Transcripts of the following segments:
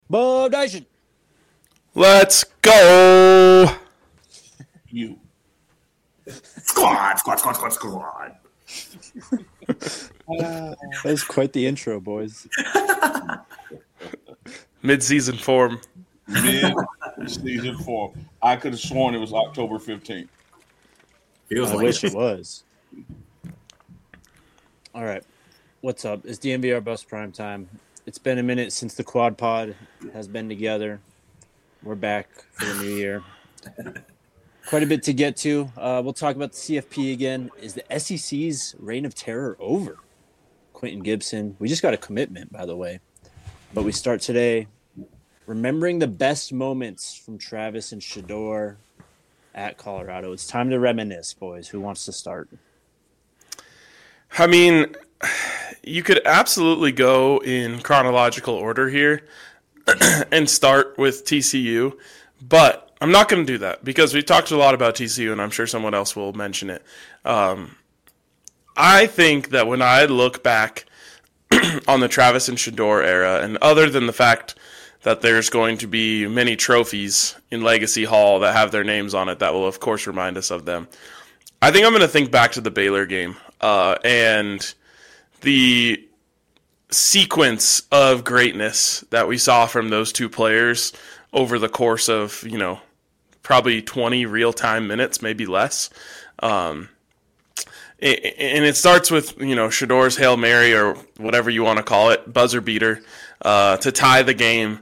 Bob Nation. Let's go. You. Squad. That was quite the intro, boys. Mid-season form. Mid-season form. I could have sworn it was October 15th. I wish it was. All right. What's up? It's DNVR Bus Prime Time. It's been a minute since the Quad Pod has been together. We're back for the new year. Quite a bit to get to. We'll talk about the CFP again. Is the SEC's reign of terror over? Quentin Gibson. We just got a commitment, by the way. But we start today remembering the best moments from Travis and Shedeur at Colorado. It's time to reminisce, boys. Who wants to start? I mean, you could absolutely go in chronological order here and start with TCU, but I'm not going to do that because we talked a lot about TCU, and I'm sure someone else will mention it. I think that when I look back on the Travis and Shedeur era, and other than the fact that there's going to be many trophies in Legacy Hall that have their names on it that will, of course, remind us of them, I think I'm going to think back to the Baylor game and the sequence of greatness that we saw from those two players over the course of, probably 20 real-time minutes, maybe less. And it starts with, Shedeur's Hail Mary or whatever you want to call it, buzzer beater, to tie the game.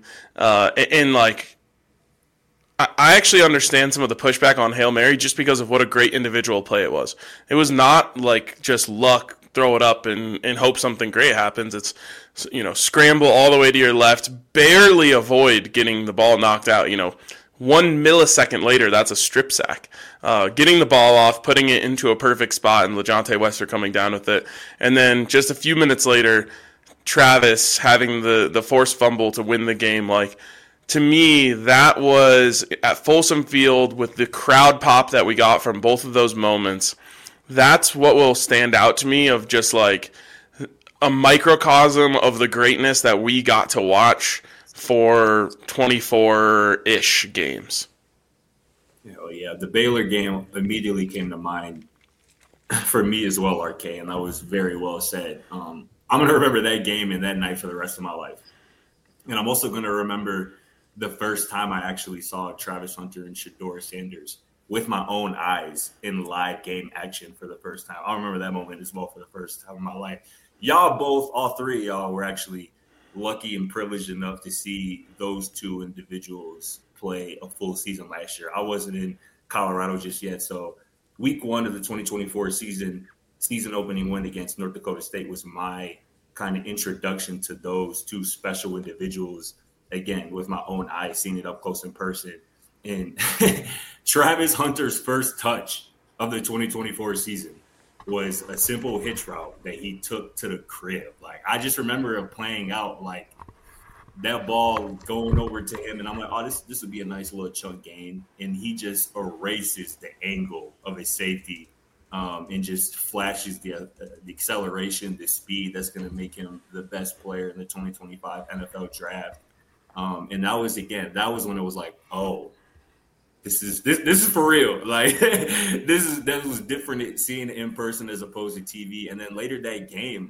I actually understand some of the pushback on Hail Mary just because of what a great individual play it was. It was not like just luck, throw it up and hope something great happens. It's, scramble all the way to your left, barely avoid getting the ball knocked out. 1 millisecond later, that's a strip sack. Getting the ball off, putting it into a perfect spot, and LeJontay Wester coming down with it. And then just a few minutes later, Travis having the forced fumble to win the game. To me, that was at Folsom Field with the crowd pop that we got from both of those moments. That's what will stand out to me of just a microcosm of the greatness that we got to watch for 24-ish games. Oh, yeah. The Baylor game immediately came to mind for me as well, RK, and that was very well said. I'm going to remember that game and that night for the rest of my life. And I'm also going to remember the first time I actually saw Travis Hunter and Shedeur Sanders with my own eyes in live game action for the first time. I remember that moment as well for the first time in my life. Y'all both, all three of y'all, were actually lucky and privileged enough to see those two individuals play a full season last year. I wasn't in Colorado just yet, so week one of the 2024 season opening win against North Dakota State was my kind of introduction to those two special individuals, again, with my own eyes, seeing it up close in person. And Travis Hunter's first touch of the 2024 season was a simple hitch route that he took to the crib. I just remember it playing out that ball going over to him, and I'm like, oh, this would be a nice little chunk gain. And he just erases the angle of his safety and just flashes the acceleration, the speed that's going to make him the best player in the 2025 NFL draft. And that was when it was like, oh, this is for real. That was different seeing it in person as opposed to TV. And then later that game,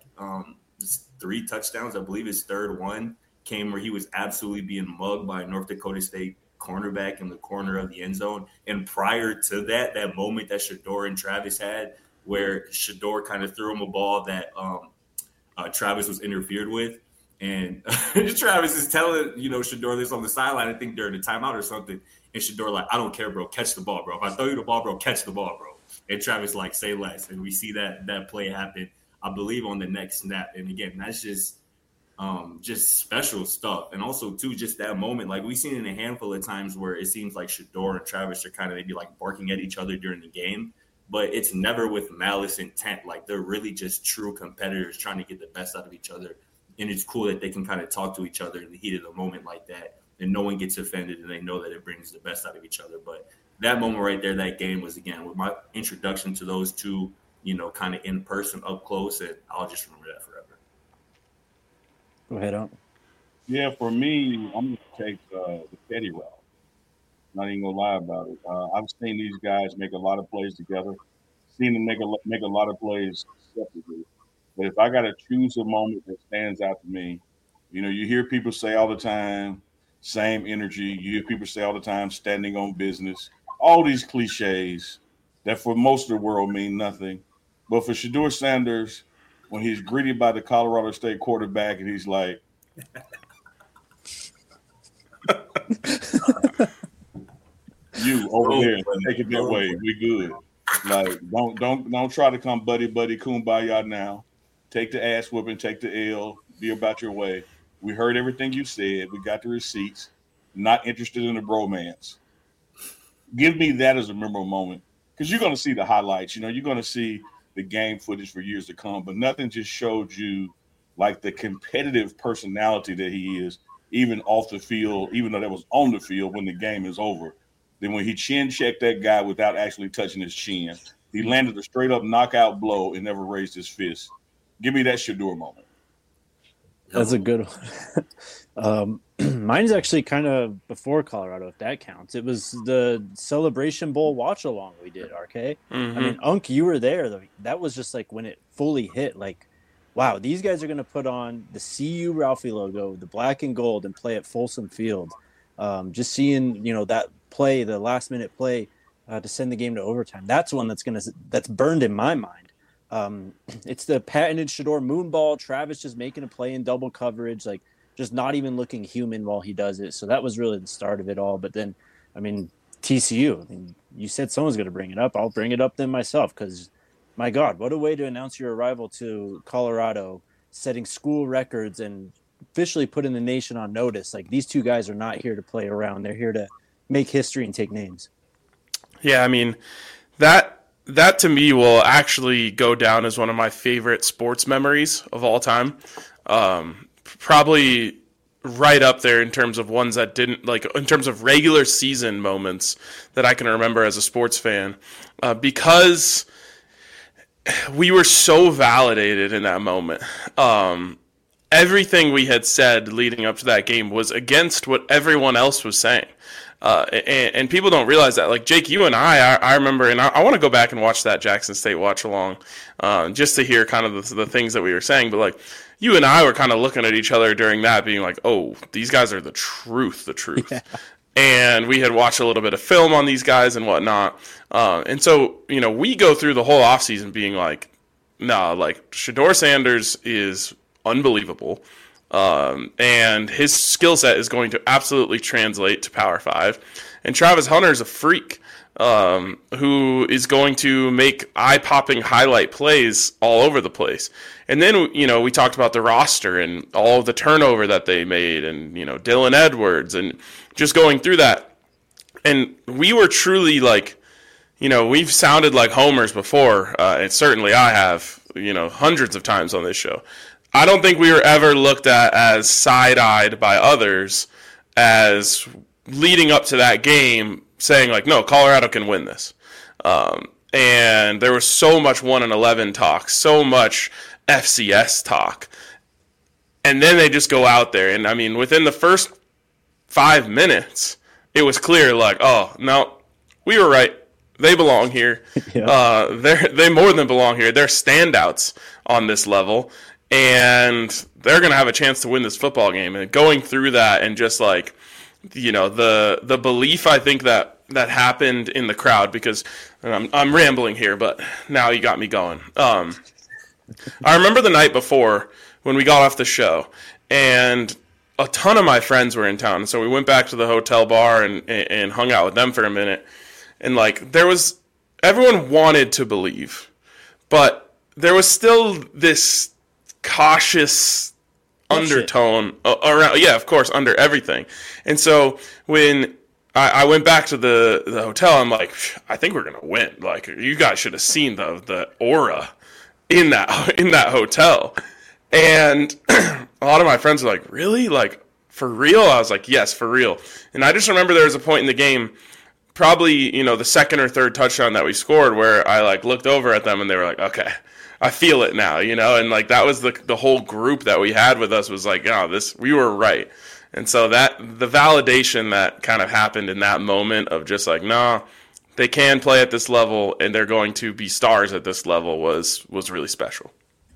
3 touchdowns, I believe his third one came where he was absolutely being mugged by a North Dakota State cornerback in the corner of the end zone. And prior to that moment that Shedeur and Travis had, where Shedeur kind of threw him a ball that Travis was interfered with. And Travis is telling, Shedeur this on the sideline, I think during the timeout or something. And Shedeur I don't care, bro. Catch the ball, bro. If I throw you the ball, bro, catch the ball, bro. And Travis say less. And we see that play happen, I believe, on the next snap. And again, that's just special stuff. And also, too, just that moment. We've seen it a handful of times where it seems like Shedeur and Travis are kind of maybe barking at each other during the game. But it's never with malice intent. They're really just true competitors trying to get the best out of each other. And it's cool that they can kind of talk to each other in the heat of the moment like that. And no one gets offended and they know that it brings the best out of each other. But that moment right there, that game was, again, with my introduction to those two, kind of in person, up close. And I'll just remember that forever. Go ahead, on. Yeah, for me, I'm going to take the petty route. Not even gonna lie about it. I've seen these guys make a lot of plays together. Seen them make a lot of plays separately. But if I got to choose a moment that stands out to me, you hear people say all the time, same energy. You hear people say all the time, standing on business. All these cliches that for most of the world mean nothing. But for Shador Sanders, when he's greeted by the Colorado State quarterback and he's like, "You over there, take it that way. We good." Like, don't try to come buddy kumbaya now. Take the ass whooping, take the L, be about your way. We heard everything you said. We got the receipts. Not interested in the bromance. Give me that as a memorable moment. Because you're gonna see the highlights, you're gonna see the game footage for years to come, but nothing just showed you like the competitive personality that he is, even off the field, even though that was on the field when the game is over. Then when he chin checked that guy without actually touching his chin, he landed a straight up knockout blow and never raised his fist. Give me that Shador moment. That's a good one. Mine's actually kind of before Colorado, if that counts. It was the Celebration Bowl watch along we did, RK. Mm-hmm. I mean, Unk, you were there. That was just like when it fully hit. Like, wow, these guys are going to put on the CU Ralphie logo, the black and gold, and play at Folsom Field. Just seeing, that play, the last minute play to send the game to overtime. That's one that's burned in my mind. It's the patented Shador moonball. Travis just making a play in double coverage, like just not even looking human while he does it. So that was really the start of it all. But then, TCU, you said someone's going to bring it up. I'll bring it up then myself because, my God, what a way to announce your arrival to Colorado, setting school records and officially putting the nation on notice. Like, these two guys are not here to play around. They're here to make history and take names. Yeah, that to me will actually go down as one of my favorite sports memories of all time. Probably right up there in terms of ones that didn't, like, in terms of regular season moments that I can remember as a sports fan, because we were so validated in that moment. Everything we had said leading up to that game was against what everyone else was saying. And people don't realize that. Like, Jake, you and I remember, and I want to go back and watch that Jackson State watch along just to hear kind of the things that we were saying. But, like, you and I were kind of looking at each other during that being like, oh, these guys are the truth. Yeah. And we had watched a little bit of film on these guys and whatnot. And so, we go through the whole offseason being like, nah, like, Shador Sanders is unbelievable. And his skill set is going to absolutely translate to Power 5. And Travis Hunter is a freak who is going to make eye-popping highlight plays all over the place. And then, we talked about the roster and all of the turnover that they made and, Dylan Edwards and just going through that. And we were truly like, we've sounded like homers before, and certainly I have, hundreds of times on this show. I don't think we were ever looked at as side-eyed by others as leading up to that game saying, like, no, Colorado can win this. And there was so much 1-11 talk, so much FCS talk. And then they just go out there. And, within the first 5 minutes, it was clear, like, oh, no, we were right. They belong here. Yeah. They more than belong here. They're standouts on this level. And they're going to have a chance to win this football game. And going through that and just like, the belief I think that happened in the crowd, because I'm rambling here, but now you got me going. I remember the night before when we got off the show, and a ton of my friends were in town. And so we went back to the hotel bar and hung out with them for a minute. And like, everyone wanted to believe, but there was still this cautious undertone around, yeah, of course, under everything. And so when I went back to the hotel, I'm like, I think we're gonna win. Like, you guys should have seen the aura in that hotel. And a lot of my friends were like, really? Like, for real? I was like, yes, for real. And I just remember there was a point in the game, probably, the second or third touchdown that we scored, where I like looked over at them and they were like, okay, I feel it now, and like that was the whole group that we had with us was like, we were right. And so that the validation that kind of happened in that moment of just like, no, they can play at this level and they're going to be stars at this level was really special.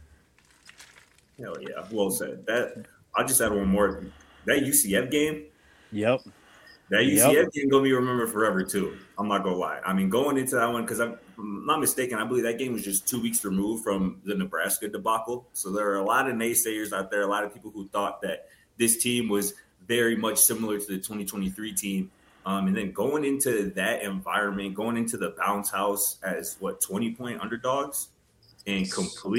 Hell yeah, well said. I'll just add one more. That UCF game. Yep. That UCF game gonna be remembered forever too. I'm not gonna lie. I mean, going into that one, because I'm not mistaken, I believe that game was just 2 weeks removed from the Nebraska debacle. So there are a lot of naysayers out there, a lot of people who thought that this team was very much similar to the 2023 team. And then going into that environment, going into the bounce house as 20-point underdogs, and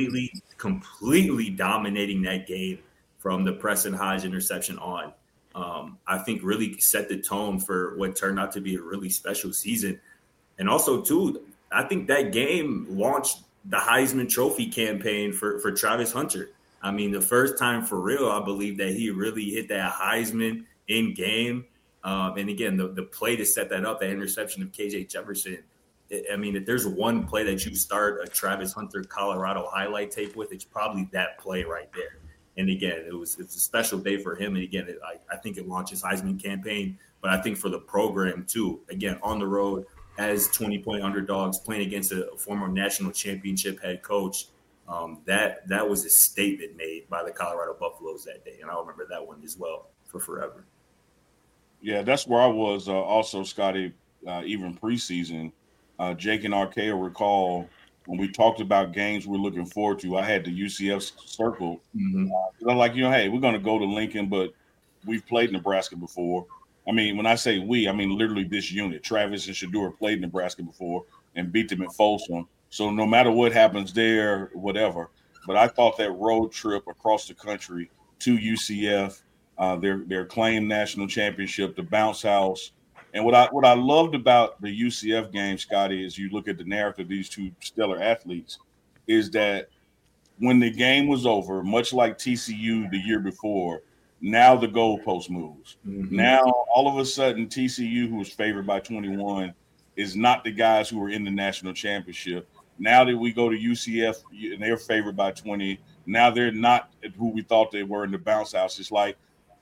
completely dominating that game from the Preston Hodge interception on. I think really set the tone for what turned out to be a really special season. And also, too, I think that game launched the Heisman Trophy campaign for Travis Hunter. I mean, the first time for real, I believe that he really hit that Heisman in game. And again, the play to set that up, that interception of KJ Jefferson. I mean, if there's one play that you start a Travis Hunter Colorado highlight tape with, it's probably that play right there. And again, it was a special day for him. And again, I think it launched his Heisman campaign. But I think for the program, too, again, on the road as 20-point underdogs playing against a former national championship head coach, that was a statement made by the Colorado Buffaloes that day. And I remember that one as well for forever. Yeah, that's where I was also, Scotty, even preseason. Jake and RK will recall when we talked about games we're looking forward to, I had the UCF circle. I'm like, hey, we're going to go to Lincoln, but we've played Nebraska before. I mean, when I say we, I mean literally this unit. Travis and Shedeur played Nebraska before and beat them at Folsom. So no matter what happens there, whatever. But I thought that road trip across the country to UCF, their claimed national championship, the bounce house. And what I loved about the UCF game, Scotty, is you look at the narrative of these two stellar athletes, is that when the game was over, much like TCU the year before, now the goalpost moves. Now, all of a sudden, TCU, who was favored by 21, is not the guys who were in the national championship. Now that we go to UCF and they're favored by 20, now they're not who we thought they were in the bounce house. It's like,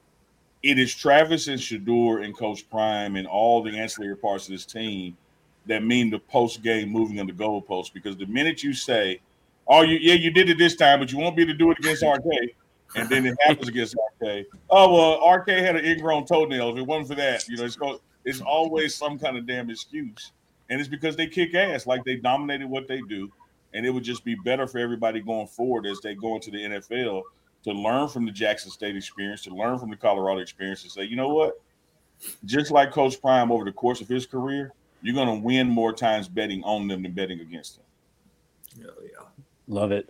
it is Travis and Shedeur and Coach Prime and all the ancillary parts of this team that mean the post-game moving of the goalpost. Because the minute you say, you did it this time, but you won't be able to do it against RK, and then it happens against RK. Oh, well, RK had an ingrown toenail. If it wasn't for that, it's always some kind of damn excuse. And it's because they kick ass, like they dominated what they do. And it would just be better for everybody going forward as they go into the NFL to learn from the Jackson State experience, to learn from the Colorado experience, and say, you know what? Just like Coach Prime over the course of his career, you're going to win more times betting on them than betting against them. Yeah. Love it.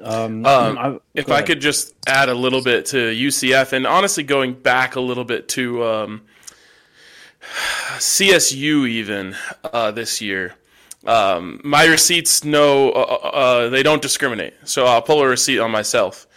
If I could just add a little bit to UCF, and honestly going back a little bit to CSU even this year. My receipts they don't discriminate, so I'll pull a receipt on myself.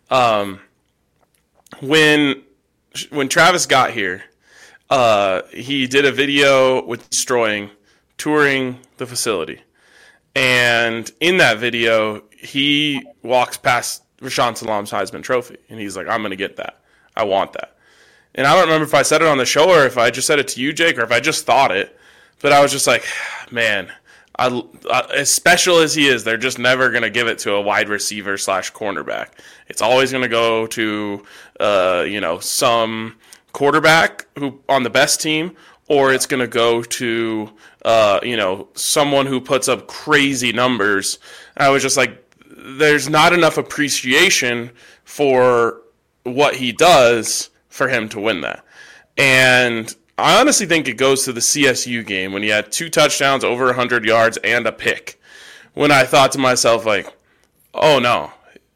When Travis got here, he did a video with touring the facility. And in that video, he walks past Rashaan Salam's Heisman Trophy. And he's like, I'm going to get that. I want that. And I don't remember if I said it on the show or if I just said it to you, Jake, or if I just thought it. But I was just like, man, as special as he is, they're just never going to give it to a wide receiver / cornerback. It's always going to go to, some quarterback who on the best team, or it's going to go to, someone who puts up crazy numbers. I was just like, there's not enough appreciation for what he does for him to win that. And I honestly think it goes to the CSU game when he had 2 touchdowns, over 100 yards, and a pick. When I thought to myself, like, oh no,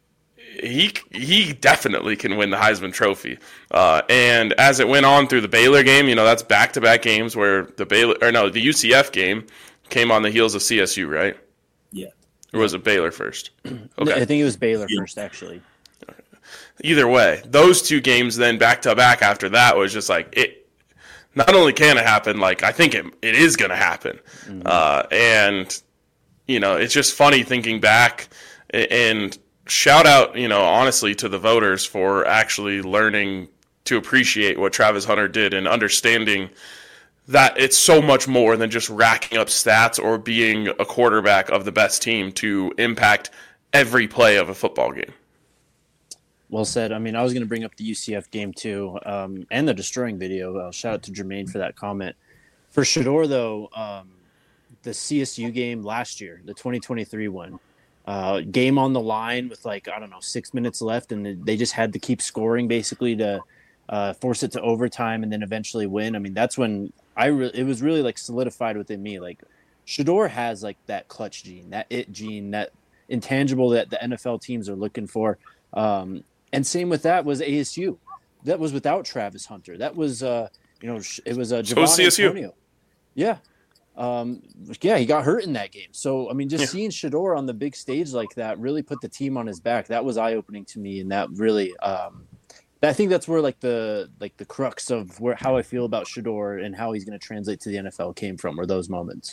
he definitely can win the Heisman Trophy. And as it went on through the Baylor game, that's back-to-back games where the UCF game came on the heels of CSU, right? Yeah. Or was it Baylor first? Okay. I think it was Baylor first, actually. Either way, those 2 games then back-to-back after that was just like, it not only can it happen, like I think it is going to happen. And, it's just funny thinking back And shout out, honestly, to the voters for actually learning to appreciate what Travis Hunter did and understanding that it's so much more than just racking up stats or being a quarterback of the best team to impact every play of a football game. Well said. I mean, I was going to bring up the UCF game too, and the destroying video. Shout out to Jermaine for that comment. For Shedeur, though, the CSU game last year, the 2023 one, game on the line with 6 minutes left, and they just had to keep scoring basically to force it to overtime and then eventually win. I mean, that's when it was really solidified within me. Shedeur has that clutch gene, that it gene, that intangible that the NFL teams are looking for. And same with that was ASU. That was without Travis Hunter. That was, it was Javon Antonio. Yeah. He got hurt in that game. So, I mean, seeing Shedeur on the big stage like that really put the team on his back. That was eye-opening to me, and that really I think that's where the crux of how I feel about Shedeur and how he's going to translate to the NFL came from, were those moments.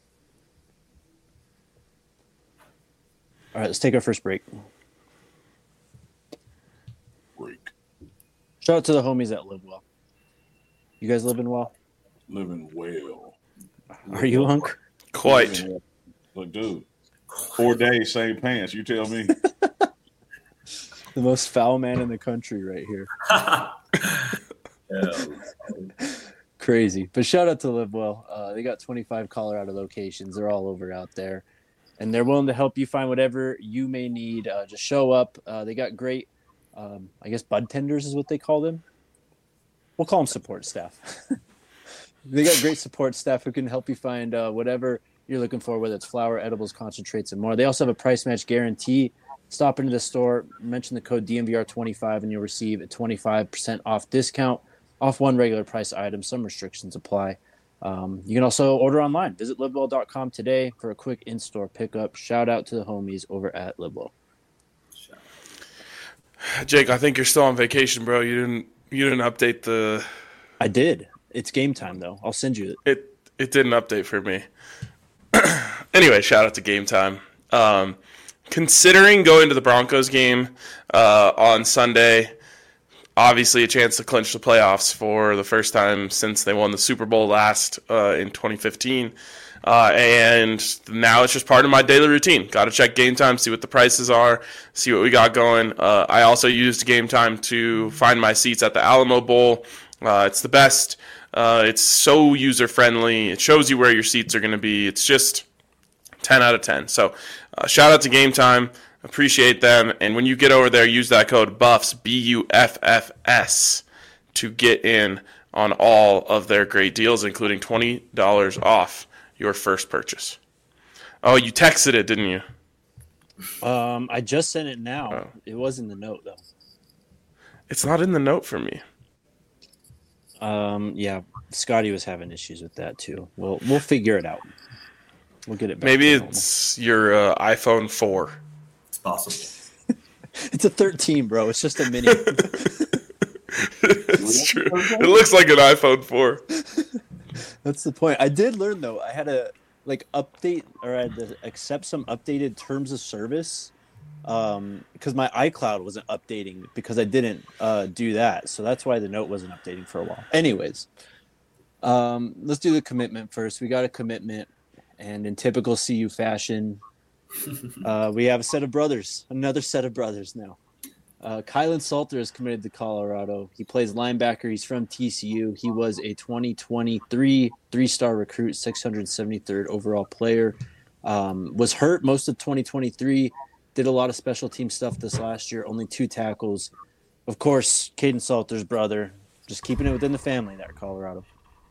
All right, let's take our first break. Shout out to the homies that live well. You guys living well? Living well. Are you, Hunk? Quite. Look, dude, 4 days, same pants. You tell me. The most foul man in the country right here. Crazy. But shout out to Live Well. They got 25 Colorado locations. They're all over out there. And they're willing to help you find whatever you may need. Just show up. They got great, I guess, bud tenders is what they call them. We'll call them support staff. They got great support staff who can help you find whatever you're looking for, whether it's flour, edibles, concentrates, and more. They also have a price match guarantee. Stop into the store, mention the code DMVR25, and you'll receive a 25% off discount off one regular price item. Some restrictions apply. You can also order online. Visit livewell.com today for a quick in-store pickup. Shout out to the homies over at Livewell. Jake, I think you're still on vacation, bro. You didn't update the. I did. It's game time though. I'll send you it. It didn't update for me. Anyway, shout out to Game Time. Considering going to the Broncos game on Sunday, obviously a chance to clinch the playoffs for the first time since they won the Super Bowl last in 2015. And now it's just part of my daily routine. Got to check Game Time, see what the prices are, see what we got going. I also used Game Time to find my seats at the Alamo Bowl. It's the best. It's so user-friendly. It shows you where your seats are going to be. It's just 10 out of 10. So shout out to Game Time. Appreciate them. And when you get over there, use that code BUFFS, BUFFS, to get in on all of their great deals, including $20 off your first purchase. Oh, you texted it, didn't you? I just sent it now. Oh. It was in the note, though. It's not in the note for me. Yeah, Scotty was having issues with that, too. We'll figure it out. We'll get it back. Maybe it's your iPhone 4. It's possible. It's a 13, bro. It's just a mini. It's true. It looks like an iPhone 4. That's the point. I did learn, though. I had to update, or I had to accept some updated terms of service because my iCloud wasn't updating because I didn't do that. So that's why the note wasn't updating for a while. Anyways, let's do the commitment first. We got a commitment, and in typical CU fashion, we have another set of brothers now. Kylan Salter is committed to Colorado. He plays linebacker. He's from TCU. He was a 2023 three-star recruit, 673rd overall player. Was hurt most of 2023. Did a lot of special team stuff this last year. Only 2 tackles. Of course, Caden Salter's brother. Just keeping it within the family there, Colorado.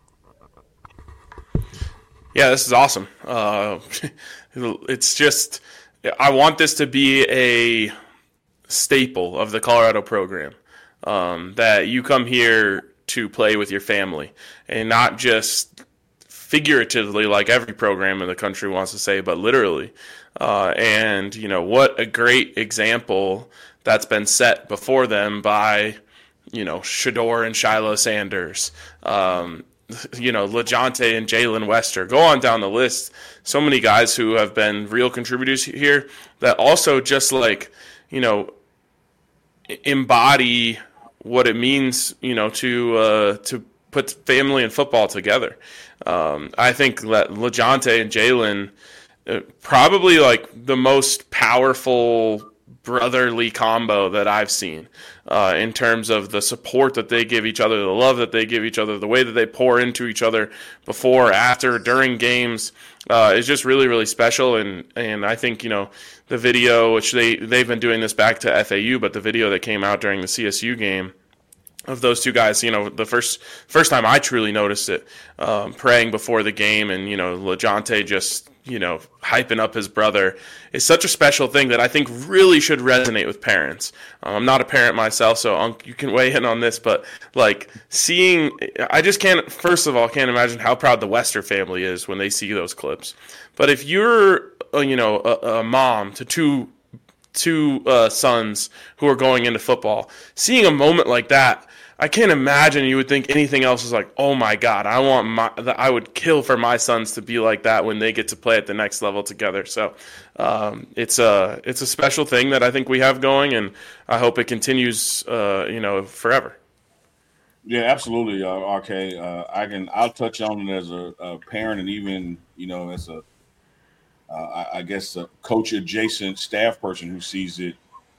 Yeah, this is awesome. It's just, I want this to be a staple of the Colorado program, that you come here to play with your family and not just figuratively like every program in the country wants to say, but literally. And, what a great example that's been set before them by, Shedeur and Shiloh Sanders. LeJounte and Jalen Wester. Go on down the list. So many guys who have been real contributors here that also just embody what it means, to put family and football together. I think that LeJounte and Jalen probably like the most powerful brotherly combo that I've seen in terms of the support that they give each other, the love that they give each other, the way that they pour into each other before, after, during games is just really, really special. And I think, the video, which they've been doing this back to FAU, but the video that came out during the CSU game of those two guys, the first time I truly noticed it, praying before the game, and, LeJounte just, hyping up his brother is such a special thing that I think really should resonate with parents. I'm not a parent myself, so you can weigh in on this, but like I just first of all, can't imagine how proud the Wester family is when they see those clips. But if you're, a mom to two sons who are going into football, seeing a moment like that, I can't imagine you would think anything else is like, oh my God, I would kill for my sons to be like that when they get to play at the next level together. So it's a special thing that I think we have going, and I hope it continues, forever. Yeah, absolutely, RK. I'll touch on it as a parent, and even as a coach adjacent staff person who sees it.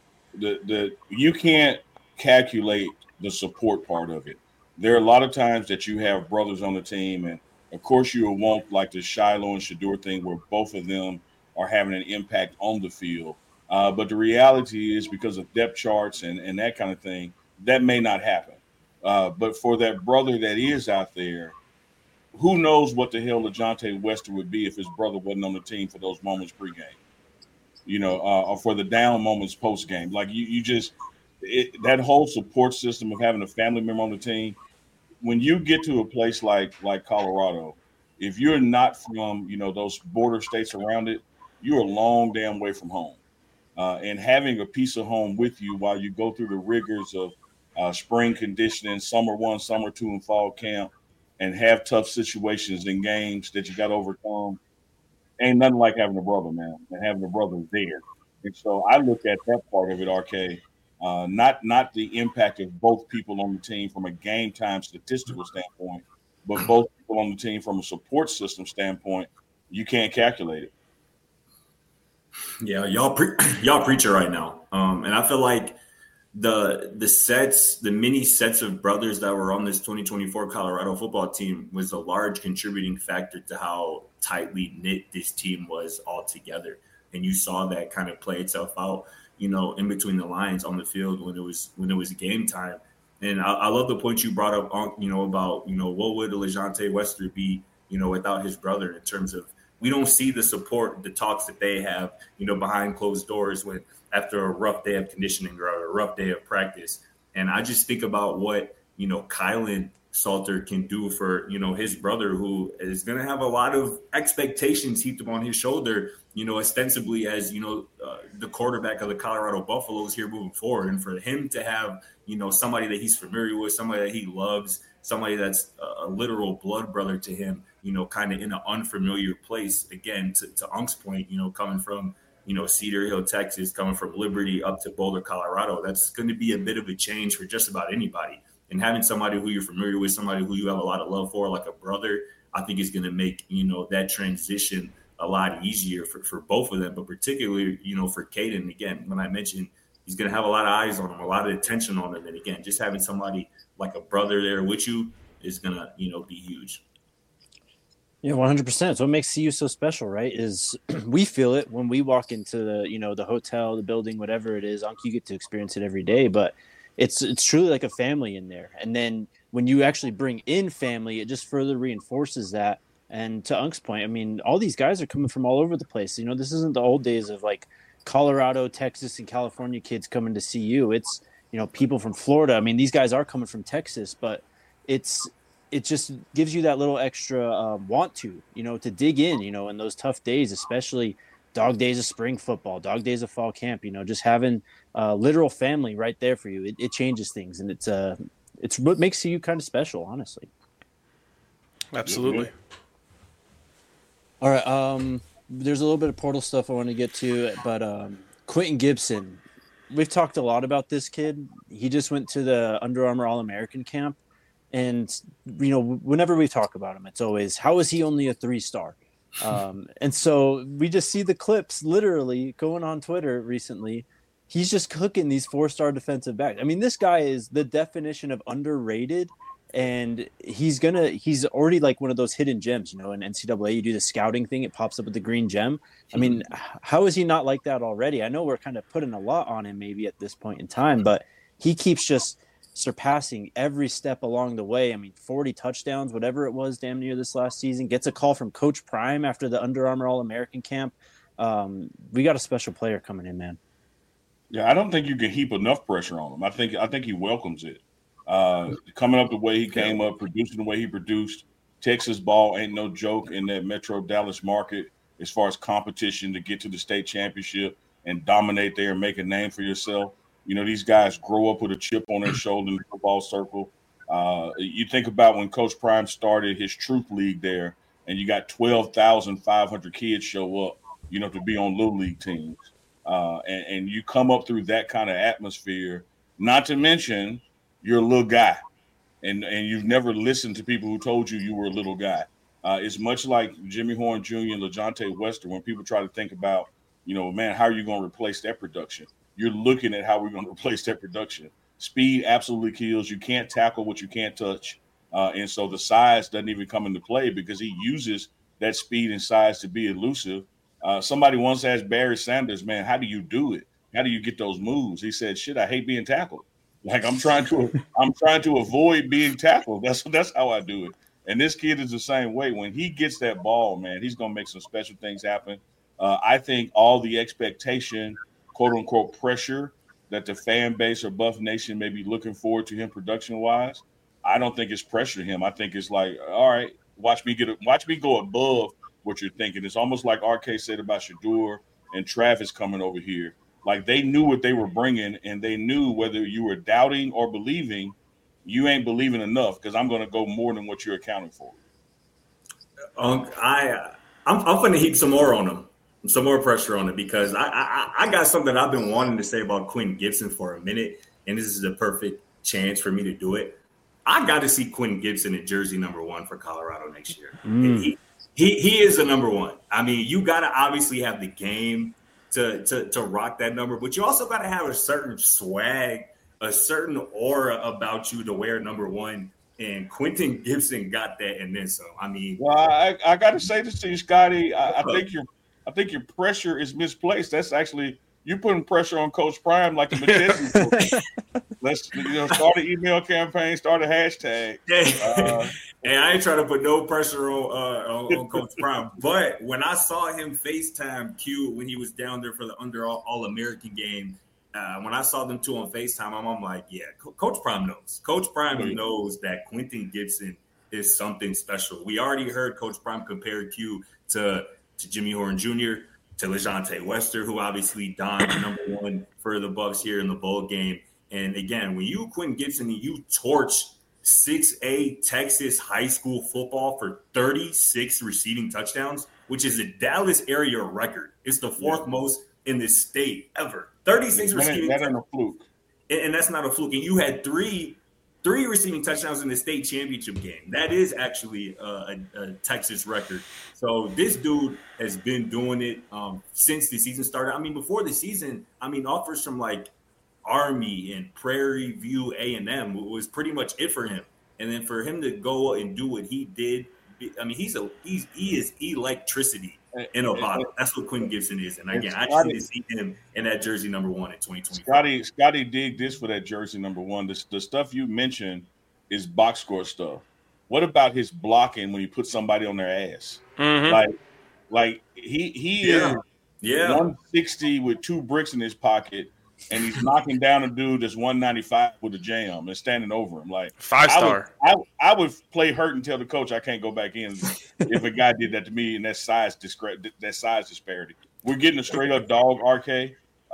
You can't calculate the support part of it. There are a lot of times that you have brothers on the team, and of course you will want like the Shiloh and Shedeur thing where both of them are having an impact on the field. But the reality is, because of depth charts and that kind of thing, that may not happen. But for that brother that is out there, who knows what the hell LeJounte Wester would be if his brother wasn't on the team for those moments pregame, or for the down moments postgame. Like that whole support system of having a family member on the team. When you get to a place like Colorado, if you're not from those border states around it, you're a long damn way from home. And having a piece of home with you while you go through the rigors of spring conditioning, summer 1, summer 2, and fall camp, and have tough situations in games that you got to overcome, ain't nothing like having a brother, man, and having a brother there. And so I look at that part of it, RK, not the impact of both people on the team from a game time statistical standpoint, but both people on the team from a support system standpoint. You can't calculate it. Yeah, y'all preach it right now, and I feel like the many sets of brothers that were on this 2024 Colorado football team was a large contributing factor to how tightly knit this team was all together. And you saw that kind of play itself out, in between the lines on the field when it was game time. And I love the point you brought up, about, what would LeJounte Wester be, without his brother, in terms of, we don't see the support, the talks that they have, behind closed doors when after a rough day of conditioning or a rough day of practice. And I just think about what, Kylan Salter can do for, his brother, who is going to have a lot of expectations heaped upon his shoulder, ostensibly as, the quarterback of the Colorado Buffaloes here moving forward. And for him to have, somebody that he's familiar with, somebody that he loves, somebody that's a literal blood brother to him, kind of in an unfamiliar place, again, to Unk's point, coming from, Cedar Hill, Texas, coming from Liberty up to Boulder, Colorado, that's going to be a bit of a change for just about anybody. And having somebody who you're familiar with, somebody who you have a lot of love for, like a brother, I think is going to make, that transition a lot easier for both of them, but particularly, for Caden. Again, when I mentioned he's going to have a lot of eyes on him, a lot of attention on him. And again, just having somebody like a brother there with you is going to, be huge. Yeah, 100%. So what makes CU so special, right, is we feel it when we walk into the, the hotel, the building, whatever it is. You get to experience it every day, but it's truly like a family in there. And then when you actually bring in family, it just further reinforces that. And to Unk's point, I mean, all these guys are coming from all over the place. This isn't the old days of like Colorado, Texas, and California kids coming to CU. It's, people from Florida. I mean, these guys are coming from Texas, but it just gives you that little extra want to dig in, in those tough days, especially dog days of spring football, dog days of fall camp, just having literal family right there for you. It changes things, and it's what makes you kind of special, honestly. Absolutely. All right. There's a little bit of portal stuff I want to get to, but Quentin Gibson, we've talked a lot about this kid. He just went to the Under Armour All-American camp. And, whenever we talk about him, it's always, how is he only a 3-star? And so we just see the clips literally going on Twitter recently. He's just cooking these 4-star defensive backs. I mean, this guy is the definition of underrated. And he's already like one of those hidden gems, in NCAA, you do the scouting thing, it pops up with the green gem. I mean, how is he not like that already? I know we're kind of putting a lot on him maybe at this point in time, but he keeps just surpassing every step along the way. I mean, 40 touchdowns, whatever it was, damn near this last season. Gets a call from Coach Prime after the Under Armour All-American camp. We got a special player coming in, man. Yeah, I don't think you can heap enough pressure on him. I think he welcomes it. Coming up the way he came up, producing the way he produced. Texas ball ain't no joke in that Metro Dallas market as far as competition to get to the state championship and dominate there and make a name for yourself. These guys grow up with a chip on their shoulder in the football circle. You think about when Coach Prime started his Truth League there, and you got 12,500 kids show up, to be on Little League teams. And you come up through that kind of atmosphere, not to mention you're a little guy, and you've never listened to people who told you were a little guy. It's much like Jimmy Horn Jr. and LeJontay Wester when people try to think about, man, how are you going to replace that production? You're looking at how we're going to replace that production. Speed absolutely kills. You can't tackle what you can't touch. And so the size doesn't even come into play because he uses that speed and size to be elusive. Somebody once asked Barry Sanders, man, how do you do it? How do you get those moves? He said, shit, I hate being tackled. Like I'm trying to avoid being tackled. That's how I do it. And this kid is the same way. When he gets that ball, man, he's going to make some special things happen. I think all the expectation, quote unquote, pressure that the fan base or Buff Nation may be looking forward to him production wise, I don't think it's pressure to him. I think it's like, all right, watch me go above what you're thinking. It's almost like RK said about Shedeur and Travis coming over here. Like they knew what they were bringing, and they knew whether you were doubting or believing, you ain't believing enough because I'm going to go more than what you're accounting for. I'm going to heap some more on him, some more pressure on him because I got something I've been wanting to say about Quentin Gibson for a minute, and this is the perfect chance for me to do it. I got to see Quentin Gibson at jersey number 1 for Colorado next year. He is the number 1. I mean, you got to obviously have the game to rock that number, but you also got to have a certain swag, a certain aura about you to wear number 1. And Quentin Gibson got that, and then some. I mean, well, I got to say this to you, Scotty. I think your pressure is misplaced. That's actually you're putting pressure on Coach Prime like the McKenzie. Let's start an email campaign, start a hashtag. And I ain't trying to put no pressure on Coach Prime, but when I saw him FaceTime Q when he was down there for the Under All-American game, when I saw them two on FaceTime, I'm like, yeah, Coach Prime knows. Coach Prime knows that Quentin Gibson is something special. We already heard Coach Prime compare Q to Jimmy Horn Jr., to LeJontay Wester, who obviously donned number 1 for the Bucs here in the bowl game. And again, when you Quentin Gibson and you torch 6A Texas high school football for 36 receiving touchdowns, which is a Dallas area record. It's the 4th most in the state ever. 36 receiving touchdowns. That ain't a fluke. And that's not a fluke. And you had three receiving touchdowns in the state championship game. That is actually a Texas record. So this dude has been doing it since the season started. I mean, before the season, offers from like Army and Prairie View A&M was pretty much it for him. And then for him to go and do what he did, I mean, he is electricity in a bottle. That's what Quentin Gibson is. And again, I just need to see him in that jersey number 1 in 2020. Scotty dig this for that jersey number 1. The stuff you mentioned is box score stuff. What about his blocking when he puts somebody on their ass? Mm-hmm. Like he is 160 with 2 bricks in his pocket, and he's knocking down a dude that's 195 with a jam and standing over him. Like 5-star. I would play hurt and tell the coach I can't go back in if a guy did that to me and that size disparity. We're getting a straight up dog, RK.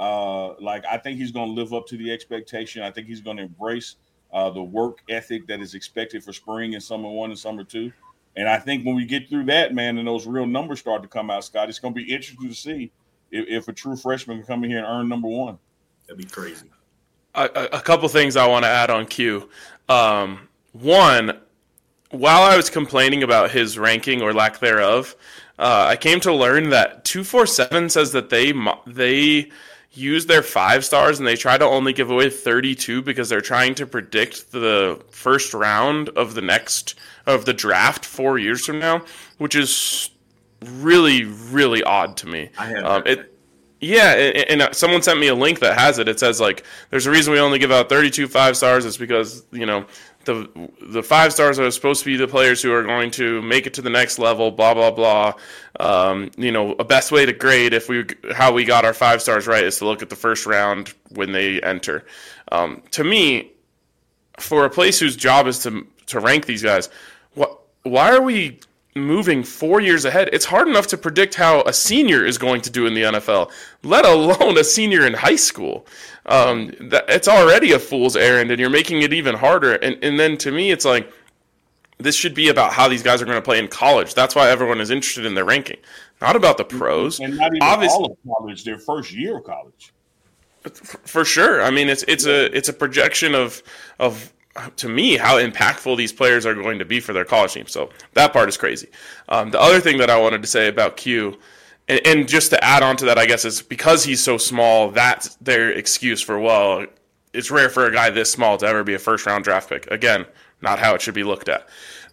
I think he's going to live up to the expectation. I think he's going to embrace the work ethic that is expected for spring and summer 1 and summer 2. And I think when we get through that, man, and those real numbers start to come out, Scott, it's going to be interesting to see if a true freshman can come in here and earn number one. That'd be crazy. A couple things I want to add on Q. One, while I was complaining about his ranking or lack thereof, I came to learn that 247 says that they use their 5 stars and they try to only give away 32 because they're trying to predict the first round of the draft 4 years from now, which is really, really odd to me. I have Yeah, and someone sent me a link that has it. It says, like, there's a reason we only give out 32 5 stars. It's because, the 5 stars are supposed to be the players who are going to make it to the next level, blah, blah, blah. A best way to grade how we got our 5 stars right is to look at the first round when they enter. To me, for a place whose job is to rank these guys, why are we moving 4 years ahead? It's hard enough to predict how a senior is going to do in the NFL, let alone a senior in high school. It's already a fool's errand, and you're making it even harder. And then to me, it's like, this should be about how these guys are going to play in college. That's why everyone is interested in their ranking, not about the pros. And not even all of college, their first year of college. For sure. I mean, it's a projection of to me, how impactful these players are going to be for their college team. So that part is crazy. The other thing that I wanted to say about Q, and just to add on to that, I guess, is because he's so small, that's their excuse for, well, it's rare for a guy this small to ever be a first-round draft pick. Again, not how it should be looked at.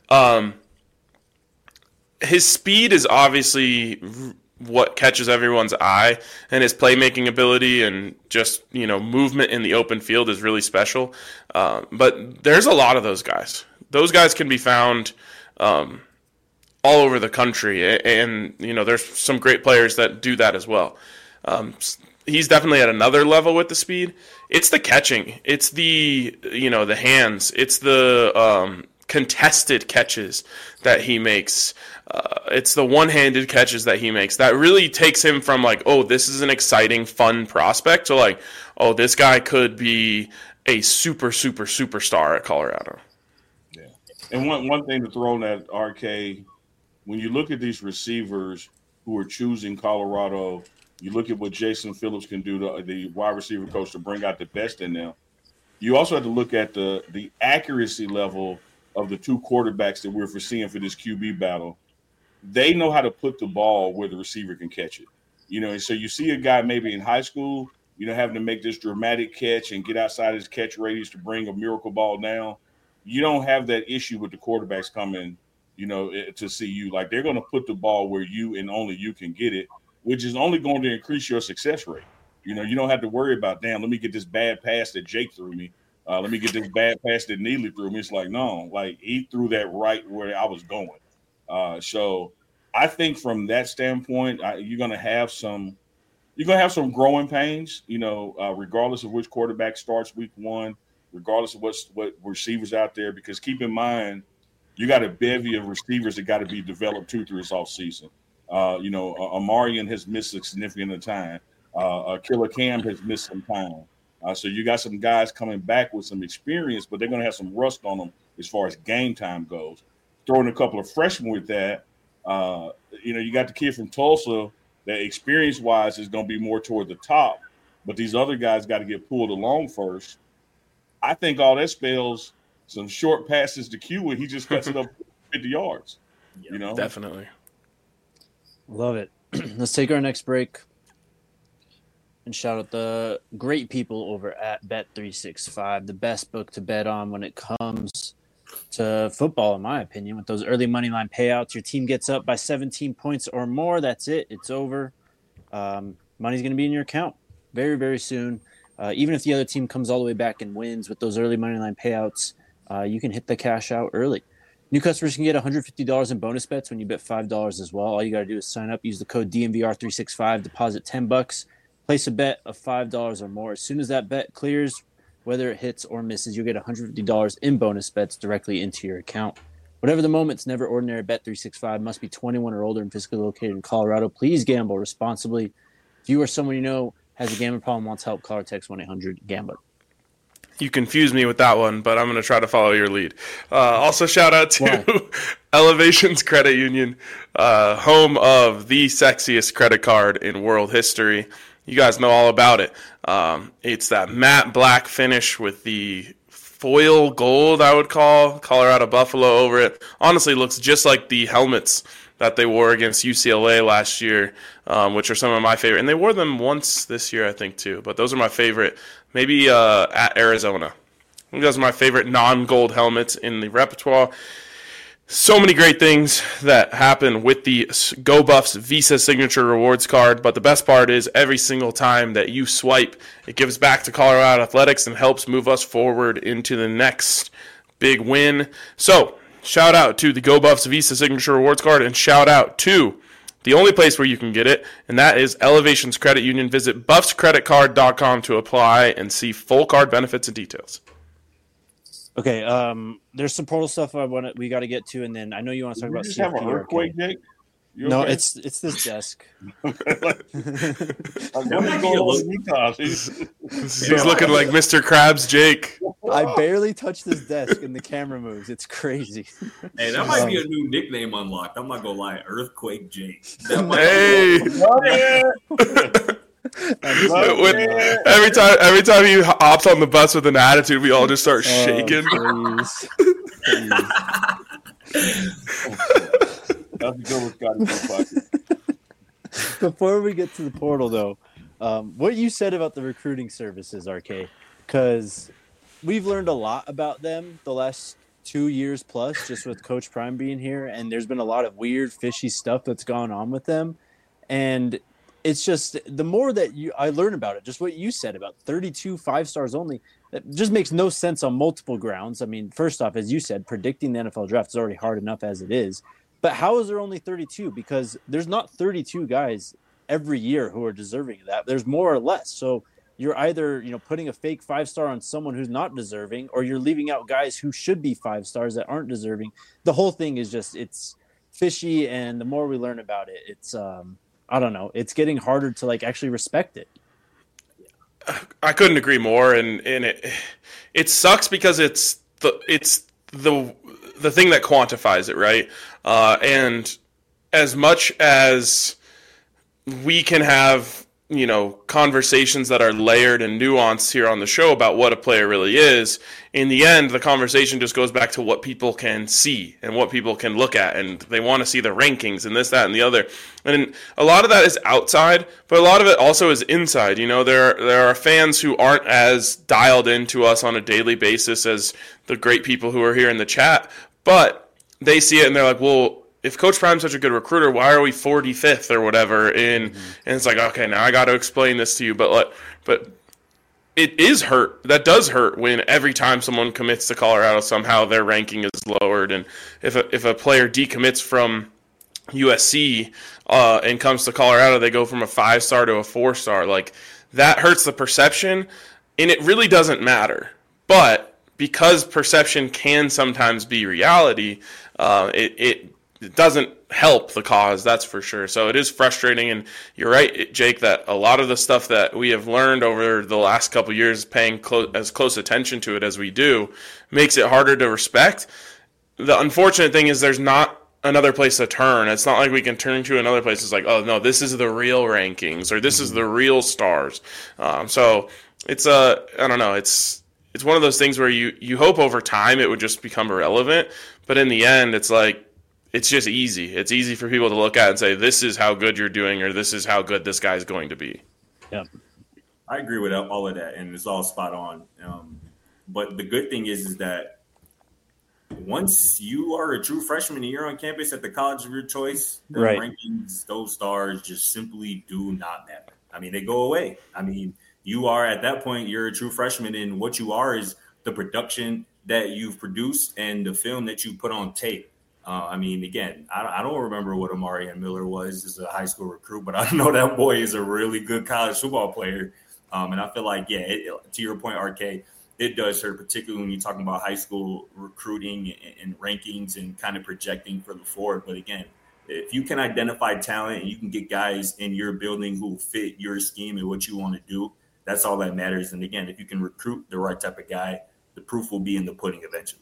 His speed is obviously what catches everyone's eye, and his playmaking ability and just, movement in the open field is really special. But there's a lot of those guys. Those guys can be found all over the country, and there's some great players that do that as well. He's definitely at another level with the speed. It's the catching. It's the the hands. It's the contested catches that he makes. It's the one-handed catches that he makes that really takes him from like, oh, this is an exciting, fun prospect to like, oh, this guy could be a super, super, superstar at Colorado. Yeah. And one thing to throw in that, RK, when you look at these receivers who are choosing Colorado, you look at what Jason Phillips can do, the wide receiver coach, to bring out the best in them. You also have to look at the accuracy level of the two quarterbacks that we're foreseeing for this QB battle. They know how to put the ball where the receiver can catch it. And so you see a guy maybe in high school, having to make this dramatic catch and get outside his catch radius to bring a miracle ball down. You don't have that issue with the quarterbacks coming, to see you. Like, they're going to put the ball where you and only you can get it, which is only going to increase your success rate. You don't have to worry about, damn, let me get this bad pass that Jake threw me. Let me get this bad pass that Neely threw me. It's like, no, like, he threw that right where I was going. So I think from that standpoint, you're going to have some growing pains, regardless of which quarterback starts week one, regardless of what receivers out there, because keep in mind, you got a bevy of receivers that got to be developed through this offseason. Amarian has missed a significant amount of time. Killer Cam has missed some time. So you got some guys coming back with some experience, but they're going to have some rust on them as far as game time goes. Throwing a couple of freshmen with that, you got the kid from Tulsa that experience-wise is going to be more toward the top, but these other guys got to get pulled along first. I think all that spells some short passes to Q when he just cuts it up 50 yards. Definitely. Love it. Let's take our next break and shout out the great people over at Bet365, the best book to bet on when it comes to football, in my opinion. With those early money line payouts, your team gets up by 17 points or more, that's it. It's over. Money's going to be in your account very, very soon. Even if the other team comes all the way back and wins with those early money line payouts, you can hit the cash out early. New customers can get $150 in bonus bets when you bet $5 as well. All you got to do is sign up, use the code DNVR365, deposit $10, place a bet of $5 or more. As soon as that bet clears, whether it hits or misses, you'll get $150 in bonus bets directly into your account. Whatever the moment, it's never ordinary. Bet365 must be 21 or older and physically located in Colorado. Please gamble responsibly. If you or someone you know has a gambling problem, wants help, call or text 1-800-GAMBLER. You confused me with that one, but I'm going to try to follow your lead. Also, shout out to Elevations Credit Union, home of the sexiest credit card in world history. You guys know all about it. It's that matte black finish with the foil gold, I would call, Colorado Buffalo over it. Honestly, looks just like the helmets that they wore against UCLA last year, which are some of my favorite. And they wore them once this year, I think, too. But those are my favorite. Maybe at Arizona. I think those are my favorite non-gold helmets in the repertoire. So many great things that happen with the Go Buffs Visa Signature Rewards card, but the best part is every single time that you swipe, it gives back to Colorado Athletics and helps move us forward into the next big win. So, shout out to the Go Buffs Visa Signature Rewards card, and shout out to the only place where you can get it, and that is Elevations Credit Union. Visit buffscreditcard.com to apply and see full card benefits and details. Okay, there's some portal stuff we got to get to, and then I know you want to talk about just have an earthquake, Jake? No, okay? it's this desk. He's looking like Mr. Krabs Jake. I barely touch this desk, and the camera moves. It's crazy. Hey, that might be a new nickname unlocked. I'm not gonna lie, Earthquake Jake. Hey. Every time he hops on the bus with an attitude, we all just start shaking. Please. That's a good one, Scotty. Before we get to the portal, though, what you said about the recruiting services, RK, because we've learned a lot about them the last 2 years plus, just with Coach Prime being here, and there's been a lot of weird, fishy stuff that's gone on with them, and it's just the more that I learn about it, just what you said about 32 5 stars only, it just makes no sense on multiple grounds. I mean, first off, as you said, predicting the NFL draft is already hard enough as it is. But how is there only 32? Because there's not 32 guys every year who are deserving of that. There's more or less. So you're either, putting a fake 5-star on someone who's not deserving, or you're leaving out guys who should be 5 stars that aren't deserving. The whole thing is it's fishy. And the more we learn about it, it's, I don't know, it's getting harder to actually respect it. I couldn't agree more. And it sucks because it's the thing that quantifies it, right? And as much as we can have, conversations that are layered and nuanced here on the show about what a player really is, in the end, the conversation just goes back to what people can see and what people can look at, and they want to see the rankings and this, that, and the other. And a lot of that is outside, but a lot of it also is inside. There are fans who aren't as dialed into us on a daily basis as the great people who are here in the chat, but they see it and they're like, well, if Coach Prime's such a good recruiter, why are we 45th or whatever? And it's like, okay, now I got to explain this to you. But it is hurt. That does hurt when every time someone commits to Colorado, somehow their ranking is lowered. And if a player decommits from USC and comes to Colorado, they go from a 5-star to a 4-star. That hurts the perception, and it really doesn't matter. But because perception can sometimes be reality, it doesn't help the cause, that's for sure. So it is frustrating, and you're right, Jake, that a lot of the stuff that we have learned over the last couple of years, paying as close attention to it as we do, makes it harder to respect. The unfortunate thing is there's not another place to turn. It's not like we can turn to another place. It's like, oh, no, this is the real rankings, or this is the real stars. So it's I don't know, it's one of those things where you hope over time it would just become irrelevant, but in the end, it's like, it's just easy. It's easy for people to look at and say, this is how good you're doing, or this is how good this guy's going to be. Yeah, I agree with all of that, and it's all spot on. But the good thing is that once you are a true freshman and you're on campus at the college of your choice, the rankings, those stars just simply do not matter. I mean, they go away. I mean, you are at that point, you're a true freshman, and what you are is the production that you've produced and the film that you put on tape. Again, I don't remember what Amarian Miller was as a high school recruit, but I know that boy is a really good college football player. And I feel like, to your point, RK, it does hurt, particularly when you're talking about high school recruiting and rankings and kind of projecting for the forward. But again, if you can identify talent and you can get guys in your building who fit your scheme and what you want to do, That's all that matters. And again, if you can recruit the right type of guy, the proof will be in the pudding eventually.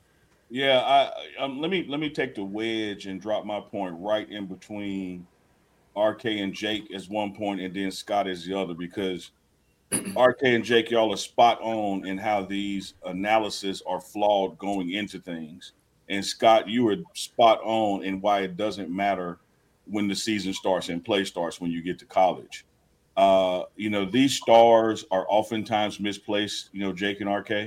Yeah, let me take the wedge and drop my point right in between RK and Jake as one point, and then Scott as the other, because RK and Jake, y'all are spot on in how these analysis are flawed going into things. And Scott, you were spot on in why it doesn't matter when the season starts and play starts when you get to college. These stars are oftentimes misplaced, Jake and RK,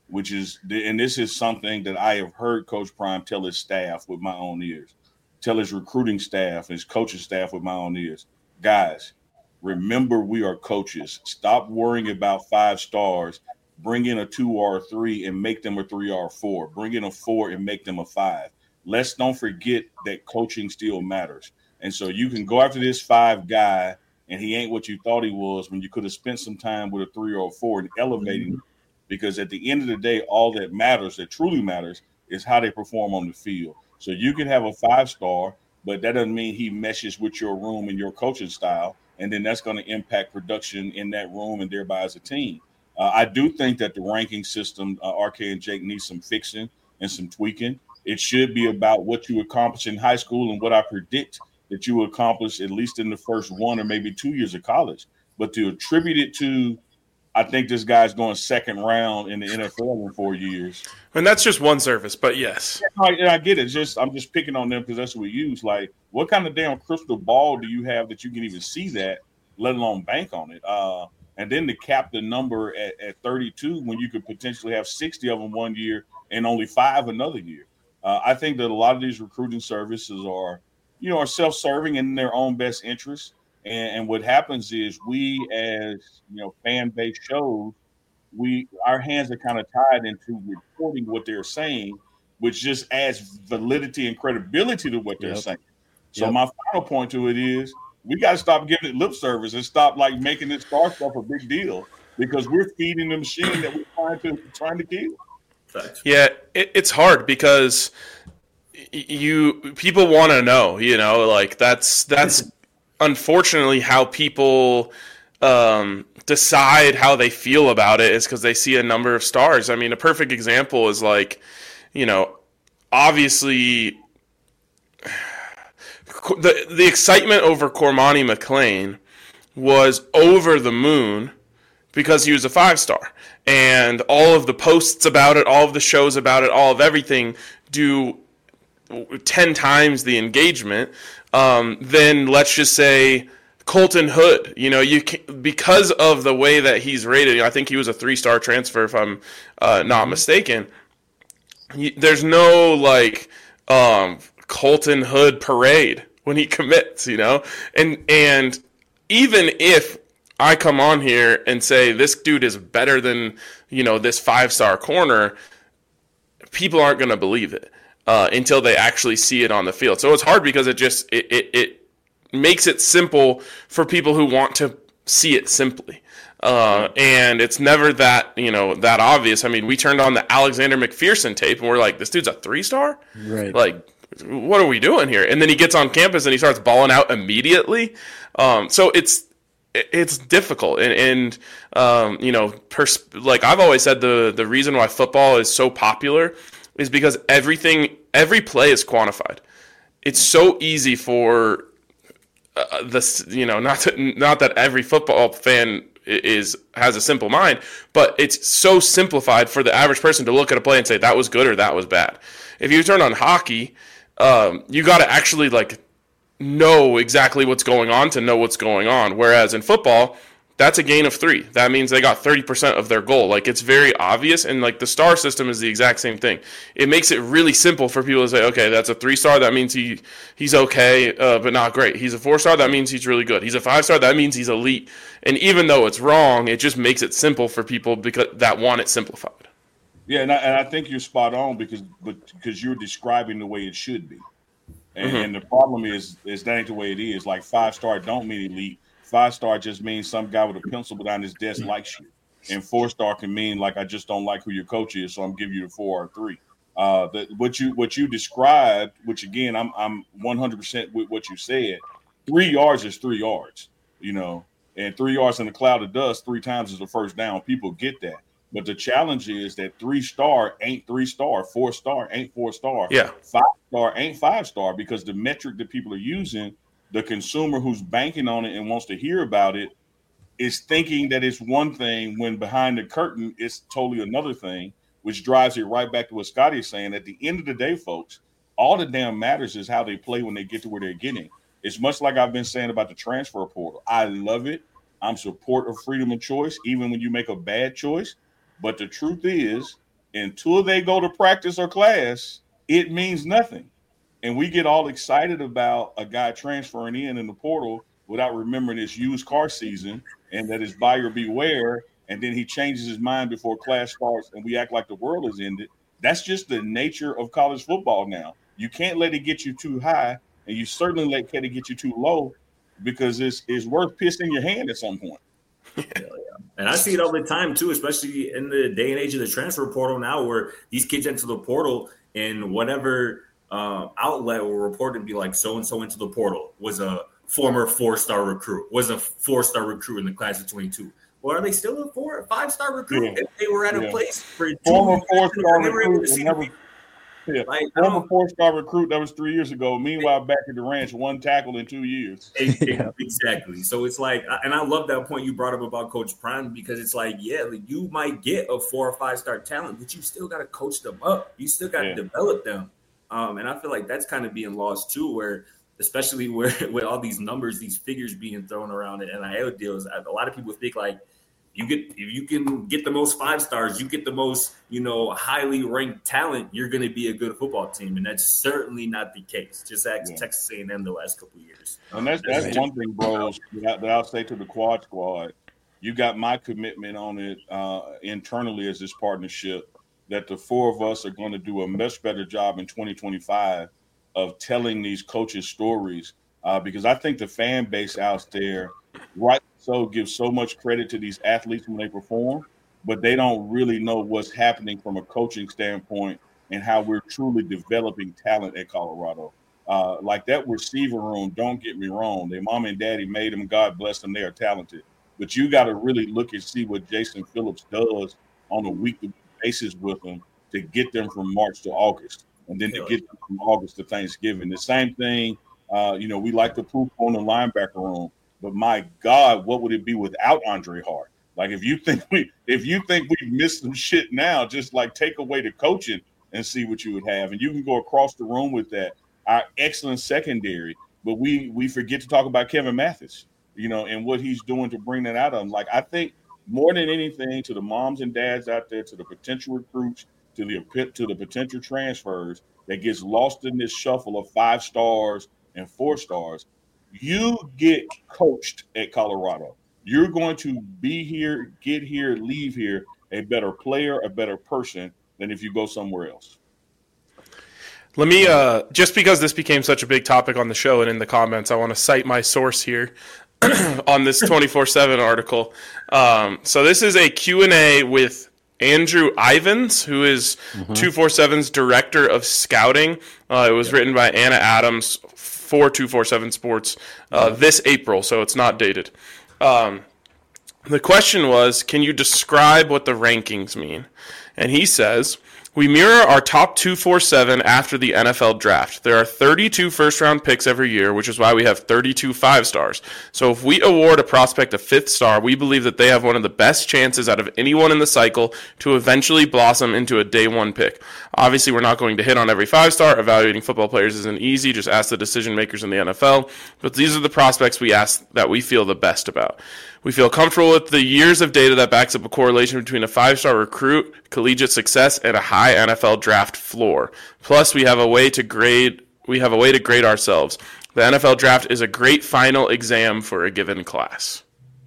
and this is something that I have heard Coach Prime tell his staff with my own ears, tell his recruiting staff, his coaching staff with my own ears. Guys, remember, we are coaches. Stop worrying about 5 stars. Bring in a 2 or a 3 and make them a 3 or a 4. Bring in a 4 and make them a 5. Let's don't forget that coaching still matters. And so you can go after this 5 guy, and he ain't what you thought he was when you could have spent some time with a 3 or a 4 and elevating him. Because at the end of the day, all that matters, that truly matters, is how they perform on the field. So you can have a 5-star, but that doesn't mean he meshes with your room and your coaching style. And then that's going to impact production in that room and thereby as a team. I do think that the ranking system, RK and Jake, needs some fixing and some tweaking. It should be about what you accomplish in high school and what I predict that you will accomplish at least in the first 1 or maybe 2 years of college. But to attribute it to, I think this guy's going second round in the NFL in 4 years. And that's just one service, but yes. I get it. I'm just picking on them because that's what we use. Like, what kind of damn crystal ball do you have that you can even see that, let alone bank on it? And then to cap the number at 32 when you could potentially have 60 of them one year and only 5 another year. I think that a lot of these recruiting services are self-serving in their own best interest. And what happens is we, as fan base shows, our hands are kind of tied into reporting what they're saying, which just adds validity and credibility to what they're saying. So my final point to it is we got to stop giving it lip service and stop making this star stuff a big deal, because we're feeding the machine that we're trying to kill. Yeah, it's hard because people want to know, that's unfortunately how people decide how they feel about it, is because they see a number of stars. I mean, a perfect example is obviously the excitement over Cormani McClain was over the moon because he was a 5-star. And all of the posts about it, all of the shows about it, all of everything do 10 times the engagement. Then let's just say Colton Hood, because of the way that he's rated, I think he was a 3-star transfer if I'm not mistaken. There's no Colton Hood parade when he commits, and even if I come on here and say this dude is better than this 5-star corner, people aren't going to believe it until they actually see it on the field. So it's hard because it makes it simple for people who want to see it simply. And it's never that that obvious. I mean, we turned on the Alexander McPherson tape and we're like, this dude's a 3-star? Right. What are we doing here? And then he gets on campus and he starts balling out immediately. So it's difficult. And I've always said the reason why football is so popular is because every play is quantified. It's so easy for not that every football fan has a simple mind, but it's so simplified for the average person to look at a play and say that was good or that was bad. If you turn on hockey, you got to actually know exactly what's going on to know what's going on. Whereas in football, that's a gain of 3. That means they got 30% of their goal. It's very obvious, and the star system is the exact same thing. It makes it really simple for people to say, okay, that's a 3-star. That means he's okay, but not great. He's a 4-star. That means he's really good. He's a 5-star. That means he's elite. And even though it's wrong, it just makes it simple for people that want it simplified. Yeah, and I think you're spot on because you're describing the way it should be. And the problem is that ain't the way it is. 5-star don't mean elite. 5-star just means some guy with a pencil behind his desk likes you. And 4-star can mean I just don't like who your coach is, so I'm giving you the 4 or 3. What you described, which again I'm 100% with what you said. 3 yards is 3 yards. And 3 yards in a cloud of dust 3 times is a first down. People get that. But the challenge is that 3-star ain't 3-star, 4-star ain't 4-star, 5-star ain't 5-star, because the metric that people are using, the consumer who's banking on it and wants to hear about it is thinking that it's one thing when behind the curtain it's totally another thing, which drives it right back to what Scotty is saying. At the end of the day, folks, all that damn matters is how they play when they get to where they're getting. It's much like I've been saying about the transfer portal. I love it. I'm support of freedom of choice, even when you make a bad choice. But the truth is, until they go to practice or class, it means nothing. And we get all excited about a guy transferring in the portal without remembering it's used car season and that it's buyer beware. And then he changes his mind before class starts and we act like the world is ended. That's just the nature of college football now. You can't let it get you too high, and you certainly can't get you too low, because it's worth pissing your hand at some point. And I see it all the time too, especially in the day and age of the transfer portal now, where these kids enter the portal and whatever outlet will report and be like, so-and-so into the portal was a former 4-star recruit, was a 4-star recruit in the class of 22. Well, are they still a 4 or 5-star recruit? Yeah. If they were at a place for former 4-star recruit, former 4-star recruit that was 3 years ago. Meanwhile, back at the ranch, 1 tackle in 2 years. Exactly. So it's like, and I love that point you brought up about Coach Prime, because it's like, you might get a 4 or 5-star talent, but you still got to coach them up. You still got to develop them. And I feel like that's kind of being lost too, where especially with all these numbers, these figures being thrown around in NIL deals, a lot of people think like, if you can get the most 5-stars, you get the most, highly ranked talent, you're going to be a good football team. And that's certainly not the case. Just ask Texas A&M the last couple of years. And that's one thing, bros, that I'll say to the Quad Squad. You got my commitment on it internally as this partnership, that the 4 of us are going to do a much better job in 2025 of telling these coaches' stories, because I think the fan base out there, right, so gives so much credit to these athletes when they perform, but they don't really know what's happening from a coaching standpoint and how we're truly developing talent at Colorado. Like that receiver room, don't get me wrong, their mom and daddy made them, God bless them, they are talented. But you got to really look and see what Jason Phillips does on a weekly basis with them to get them from March to August, and then to get them from August to Thanksgiving. The same thing, we like to poop on the linebacker room. But my God, what would it be without Andre Hart? Like if you think we've missed some shit now, just like take away the coaching and see what you would have. And you can go across the room with that. Our excellent secondary, but we forget to talk about Kevin Mathis, and what he's doing to bring that out of him. Like I think more than anything, to the moms and dads out there, to the potential recruits, to the potential transfers that gets lost in this shuffle of 5 stars and 4 stars. You get coached at Colorado. You're going to be here, get here, leave here a better player, a better person than if you go somewhere else. Let me, just because this became such a big topic on the show and in the comments, I want to cite my source here on this 24/7 article. So this is a Q&A with Andrew Ivins, who is 247's director of scouting. It was written by Anna Adams for 247 Sports this April, so it's not dated. The question was, can you describe what the rankings mean? And he says, we mirror our top 247 after the NFL draft. There are 32 first-round picks every year, which is why we have 32 5-stars. So if we award a prospect a 5th star, we believe that they have one of the best chances out of anyone in the cycle to eventually blossom into a day 1 pick. Obviously, we're not going to hit on every 5-star. Evaluating football players isn't easy. Just ask the decision-makers in the NFL. But these are the prospects that we feel the best about. We feel comfortable with the years of data that backs up a correlation between a 5-star recruit, collegiate success, and a high NFL draft floor. Plus, we have a way to grade ourselves. The NFL draft is a great final exam for a given class.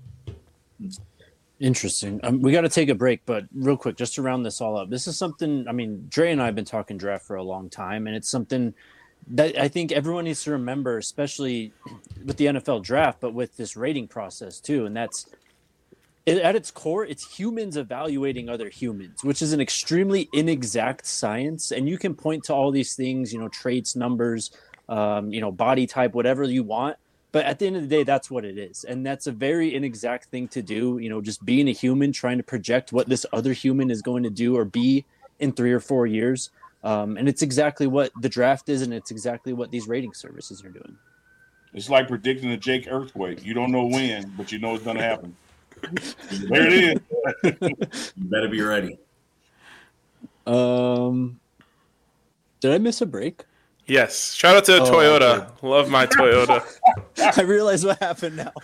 Interesting. We got to take a break, but real quick, just to round this all up, this is something, Dre and I have been talking draft for a long time, and it's something that I think everyone needs to remember, especially with the NFL draft, but with this rating process too. And that's, at its core, it's humans evaluating other humans, which is an extremely inexact science. And you can point to all these things, traits, numbers, body type, whatever you want. But at the end of the day, that's what it is. And that's a very inexact thing to do. Just being a human, trying to project what this other human is going to do or be in 3 or 4 years. And it's exactly what the draft is, and it's exactly what these rating services are doing. It's like predicting a Jake earthquake. You don't know when, but you know it's going to happen. There it is. You better be ready. Did I miss a break? Yes. Shout out to Toyota. Love my Toyota. I realize what happened now.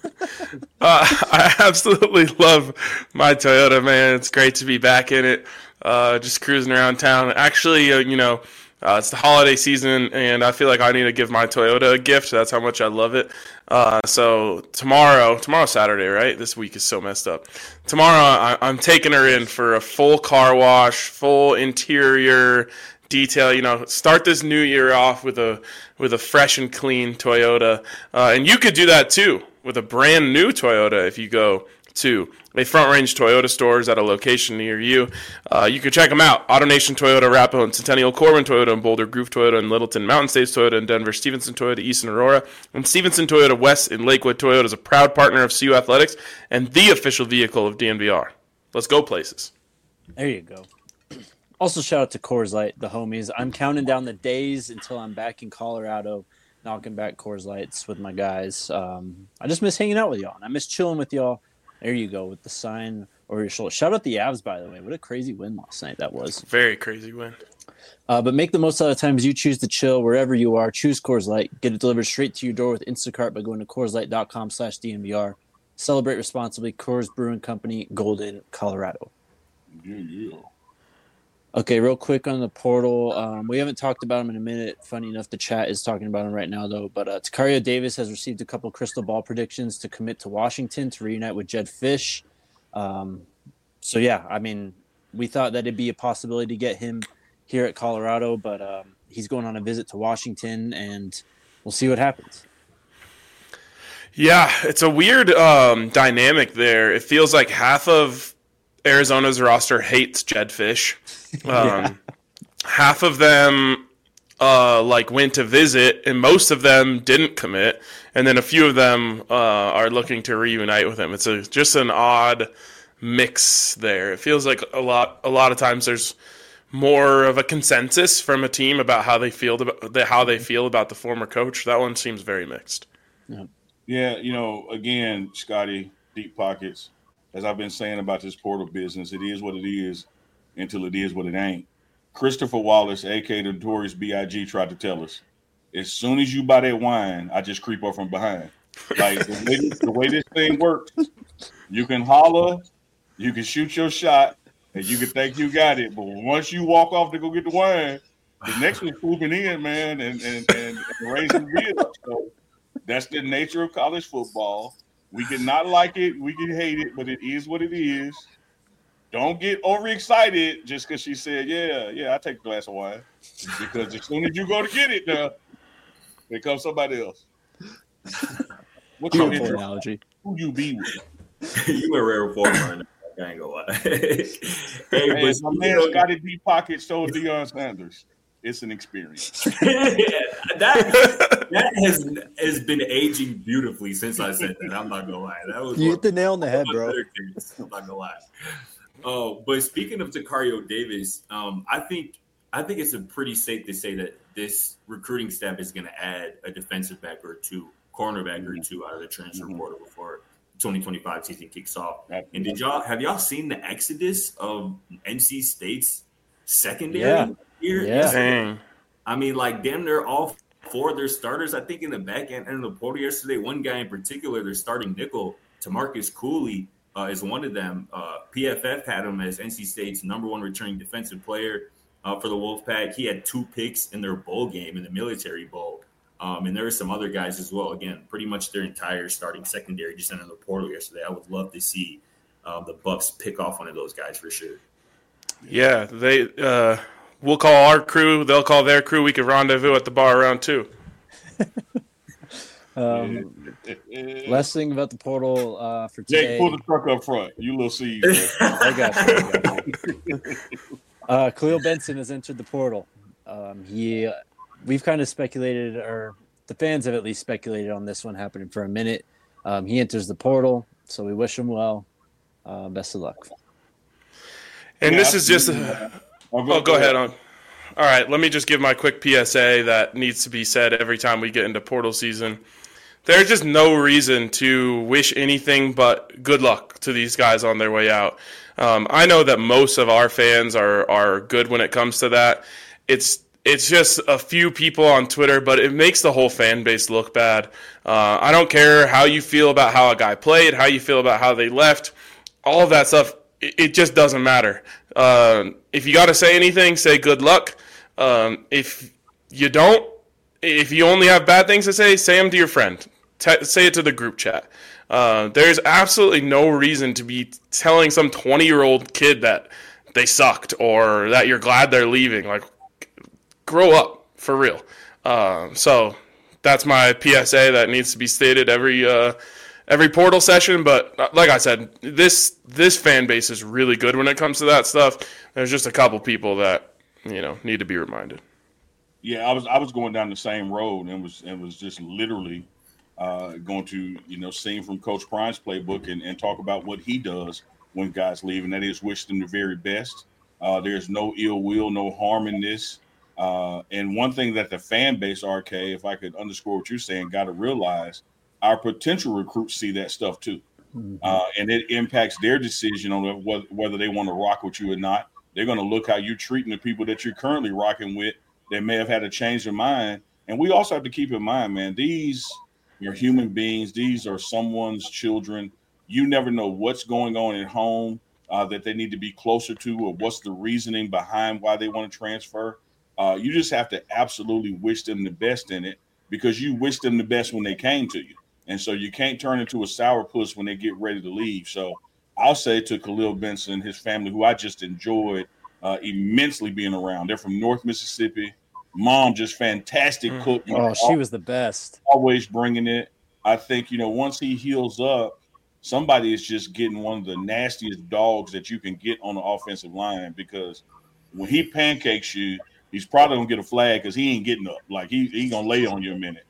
I absolutely love my Toyota, man. It's great to be back in it. Just cruising around town. Actually, it's the holiday season, and I feel like I need to give my Toyota a gift. That's how much I love it. So tomorrow's Saturday, right? This week is so messed up. Tomorrow, I'm taking her in for a full car wash, full interior detail. Start this new year off with a fresh and clean Toyota, and you could do that too with a brand new Toyota if you go to a Front Range Toyota stores at a location near you. You can check them out. AutoNation Toyota, Arapahoe and Centennial, Corbin Toyota and Boulder, Groove Toyota and Littleton, Mountain States Toyota in Denver, Stevenson Toyota East in Aurora, and Stevenson Toyota West in Lakewood. Toyota is a proud partner of CU Athletics and the official vehicle of DNVR. Let's go places. There you go. Also, shout out to Coors Light, the homies. I'm counting down the days until I'm back in Colorado, knocking back Coors Lights with my guys. I just miss hanging out with y'all, and I miss chilling with y'all. There you go, with the sign over your shoulder. Shout out the Avs, by the way. What a crazy win last night that was. Very crazy win. But make the most out of the times you choose to chill wherever you are. Choose Coors Light. Get it delivered straight to your door with Instacart by going to CoorsLight.com/DNVR. Celebrate responsibly. Coors Brewing Company, Golden, Colorado. Yeah. Okay, real quick on the portal. We haven't talked about him in a minute. Funny enough, the chat is talking about him right now, though. But Takario Davis has received a couple crystal ball predictions to commit to Washington to reunite with Jedd Fisch. We thought that it'd be a possibility to get him here at Colorado, but he's going on a visit to Washington, and we'll see what happens. Yeah, it's a weird dynamic there. It feels like half of Arizona's roster hates Jedd Fisch. Half of them went to visit, and most of them didn't commit, and then a few of them are looking to reunite with him. It's just an odd mix there. It feels like a lot of times there's more of a consensus from a team about how they feel about the former coach. That one seems very mixed. Yeah, again, Scotty, deep pockets. As I've been saying about this portal business, it is what it is until it is what it ain't. Christopher Wallace, a.k.a. the Notorious B.I.G., tried to tell us, as soon as you buy that wine, I just creep up from behind. Like, the way this thing works, you can holler, you can shoot your shot, and you can think you got it. But once you walk off to go get the wine, the next one's swooping in, man, and raising the bill. So that's the nature of college football. We can not like it, we can hate it, but it is what it is. Don't get overexcited just because she said, yeah, I take a glass of wine. Because as soon as you go to get it, now, here comes somebody else. What's your analogy? Who you be with? You a rare form right now. I ain't gonna lie. Hey, my man Scotty B. Pocket told Deion Sanders. It's an experience. that has been aging beautifully since I said that. I'm not gonna lie. That was you hit the nail on the head, bro. I'm not gonna lie. Oh, but speaking of Takario Davis, I think it's a pretty safe to say that this recruiting staff is going to add a defensive back or two, cornerback or two out of the transfer portal before 2025 season kicks off. And have y'all seen the exodus of NC State's secondary here? Yeah. I mean, like damn near all four of their starters, I think in the back end of the portal yesterday, one guy in particular, their starting nickel, Tamarcus Cooley, is one of them. PFF had him as NC State's number one returning defensive player for the Wolfpack. He had 2 picks in their bowl game, in the Military Bowl. And there were some other guys as well. Again, pretty much their entire starting secondary just entered the portal yesterday. I would love to see the Bucs pick off one of those guys for sure. Yeah, we'll call our crew. They'll call their crew. We could rendezvous at the bar around 2. Last thing about the portal for today. Jake, pull the truck up front. You little see. I got you. Khalil Benson has entered the portal. We've kind of speculated or the fans have at least speculated on this one happening for a minute. He enters the portal, so we wish him well. Best of luck. And this is just go ahead on. All right, let me just give my quick PSA that needs to be said every time we get into portal season. There's just no reason to wish anything but good luck to these guys on their way out. I know that most of our fans are good when it comes to that. It's just a few people on Twitter, but it makes the whole fan base look bad. I don't care how you feel about how a guy played, how you feel about how they left, all of that stuff. It just doesn't matter. If you got to say anything, say good luck. If you don't, if you only have bad things to say them to your friend. Say it to the group chat. There's absolutely no reason to be telling some 20-year-old kid that they sucked or that you're glad they're leaving. Like, grow up, for real. So that's my PSA that needs to be stated every portal session. But like I said, this fan base is really good when it comes to that stuff. There's just a couple people that need to be reminded. Yeah, I was going down the same road and was just literally going to sing from Coach Prime's playbook and talk about what he does when guys leave, and that is wish them the very best. There's no ill will, no harm in this. And one thing that the fan base, RK, if I could underscore what you're saying, got to realize, our potential recruits see that stuff too. And it impacts their decision on whether they want to rock with you or not. They're going to look how you're treating the people that you're currently rocking with that may have had a change of mind. And we also have to keep in mind, man, these are human beings. These are someone's children. You never know what's going on at home that they need to be closer to, or what's the reasoning behind why they want to transfer. You just have to absolutely wish them the best in it, because you wish them the best when they came to you. And so you can't turn into a sourpuss when they get ready to leave. So I'll say to Khalil Benson and his family, who I just enjoyed immensely being around. They're from North Mississippi. Mom, just fantastic cook. Oh, she was the best. Always bringing it. I think, once he heals up, somebody is just getting one of the nastiest dogs that you can get on the offensive line, because when he pancakes you, he's probably going to get a flag because he ain't getting up. Like, he going to lay on you a minute.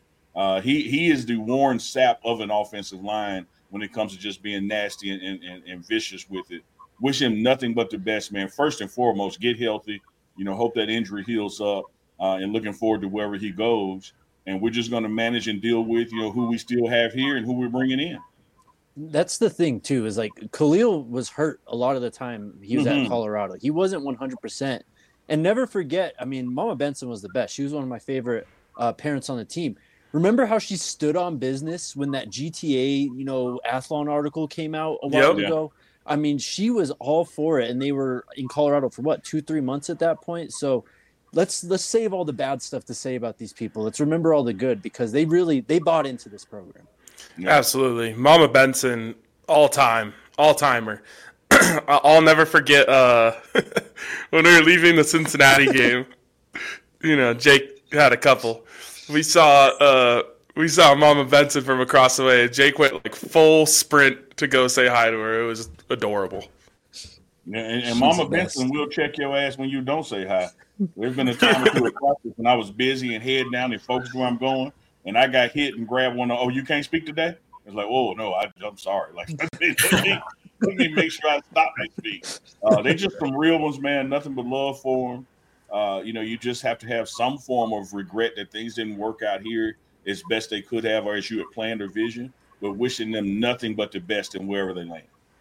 He is the Warren Sapp of an offensive line when it comes to just being nasty and vicious with it. Wish him nothing but the best, man. First and foremost, get healthy. Hope that injury heals up. And looking forward to wherever he goes. And we're just going to manage and deal with, who we still have here and who we're bringing in. That's the thing, too, is like Khalil was hurt a lot of the time he was at Colorado. He wasn't 100%. And never forget, Mama Benson was the best. She was one of my favorite parents on the team. Remember how she stood on business when that GTA, Athlon article came out a while ago? She was all for it. And they were in Colorado for 2-3 months at that point. So let's save all the bad stuff to say about these people. Let's remember all the good, because they bought into this program. Yeah. Absolutely. Mama Benson, all-timer. I'll never forget when we were leaving the Cincinnati game. Jake had a couple. We saw Mama Benson from across the way. Jake went like full sprint to go say hi to her. It was adorable. Yeah, and Mama Benson will check your ass when you don't say hi. There's been a time or two at practice when I was busy and head down and focused where I'm going, and I got hit and grabbed one. You can't speak today? It's like, oh no, I'm sorry. Like, let me make sure I stop and speak. They just some real ones, man. Nothing but love for them. You just have to have some form of regret that things didn't work out here as best they could have, or as you had planned or vision. But wishing them nothing but the best in wherever they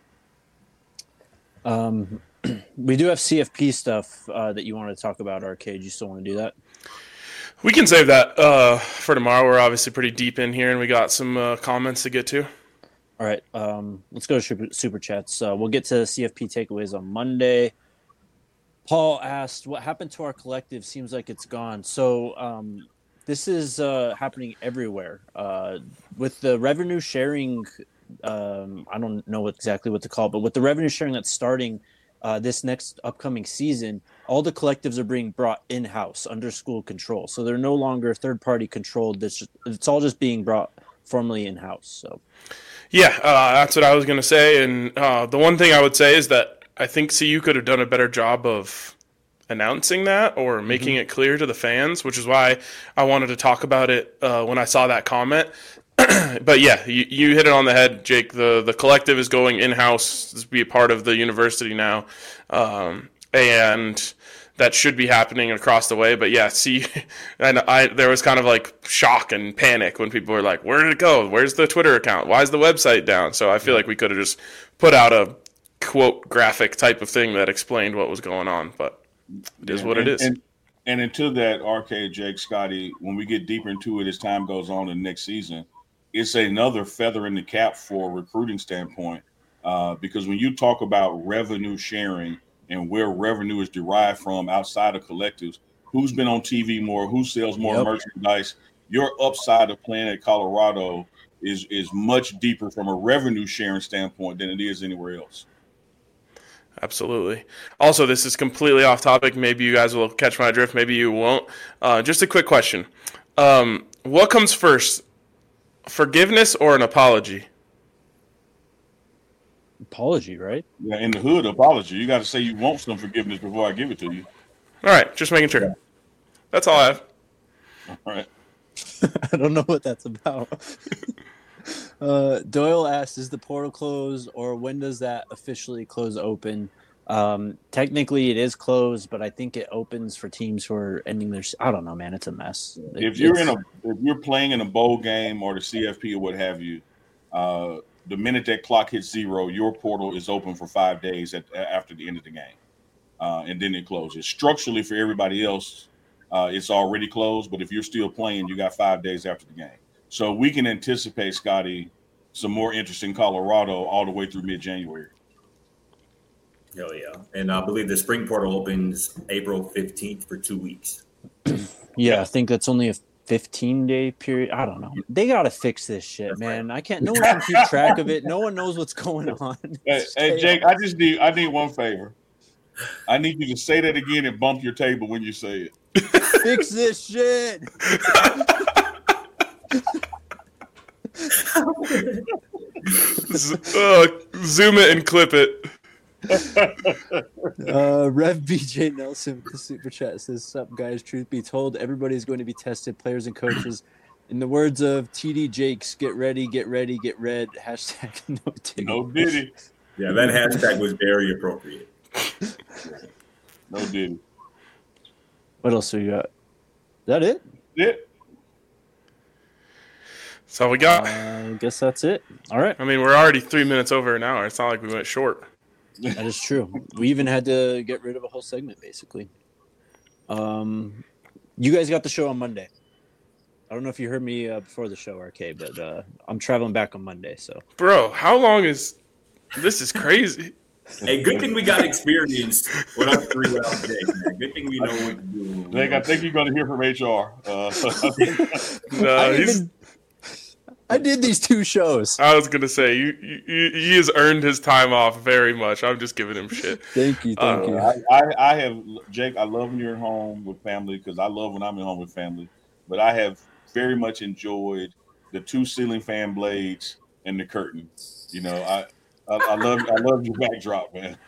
land. We do have CFP stuff that you want to talk about, Arcade. You still want to do that? We can save that for tomorrow. We're obviously pretty deep in here, and we got some comments to get to. All right. Let's go to Super Chats. We'll get to CFP takeaways on Monday. Paul asked, what happened to our collective? Seems like it's gone. So this is happening everywhere. With the revenue sharing, I don't know exactly what to call it, but with the revenue sharing that's starting this next upcoming season, all the collectives are being brought in-house under school control. So they're no longer third-party controlled. It's all just being brought formally in-house. So, yeah, that's what I was going to say. And the one thing I would say is that I think CU could have done a better job of announcing that or making it clear to the fans, which is why I wanted to talk about it when I saw that comment. But yeah, you hit it on the head, Jake. The collective is going in-house to be a part of the university now, and that should be happening across the way. But yeah, there was kind of like shock and panic when people were like, where did it go? Where's the Twitter account? Why is the website down? So I feel like we could have just put out a quote graphic type of thing that explained what was going on, but it is what it is. And into that, RK, Jake, Scotty, when we get deeper into it as time goes on in the next season, it's another feather in the cap for a recruiting standpoint, because when you talk about revenue sharing and where revenue is derived from outside of collectives, who's been on TV more, who sells more merchandise, your upside of playing at Colorado is much deeper from a revenue sharing standpoint than it is anywhere else. Absolutely. Also, this is completely off topic. Maybe you guys will catch my drift. Maybe you won't. Just a quick question. What comes first, forgiveness or an apology? Apology, right? Yeah, in the hood, apology. You got to say you want some forgiveness before I give it to you. All right, just making sure. That's all I have. All right. I don't know what that's about. Doyle asks, is the portal closed, or when does that officially close open? Technically, it is closed, but I think it opens for teams who are ending their. I don't know, man. It's a mess. If you're playing in a bowl game or the CFP or what have you, the minute that clock hits 0, your portal is open for 5 days after the end of the game, and then it closes. Structurally, for everybody else, it's already closed. But if you're still playing, you got 5 days after the game. So we can anticipate, Scotty, some more interest in Colorado all the way through mid-January. Hell yeah. And I believe the spring portal opens April 15th for 2 weeks. Yeah, I think that's only a 15-day period. I don't know. They got to fix this shit, man. I can't. No one can keep track of it. No one knows what's going on. Hey, Jake, I need one favor. I need you to say that again and bump your table when you say it. Fix this shit. Zoom it and clip it. Rev BJ Nelson with the super chat says, "Sup guys, truth be told, everybody's going to be tested, players and coaches. In the words of TD Jakes, get ready, get ready, get red. Hashtag no Diddy." No Diddy. Yeah, that hashtag was very appropriate. No Diddy. What else do you got? Is that it? Yeah. That's all we got. I guess that's it. All right. I mean, we're already 3 minutes over an hour. It's not like we went short. That is true. We even had to get rid of a whole segment, basically. You guys got the show on Monday. I don't know if you heard me before the show, RK, but I'm traveling back on Monday. So, bro, how long is this? Is crazy. Hey, good thing we got experience with our 3 round day, man. Good thing we know what to do. Jake, I think you're going to hear from HR. I did these 2 shows. I was gonna say he has earned his time off very much. I'm just giving him shit. Thank you. I have, Jake. I love when you're at home with family because I love when I'm at home with family. But I have very much enjoyed the 2 ceiling fan blades and the curtain. You know, I love your backdrop, man.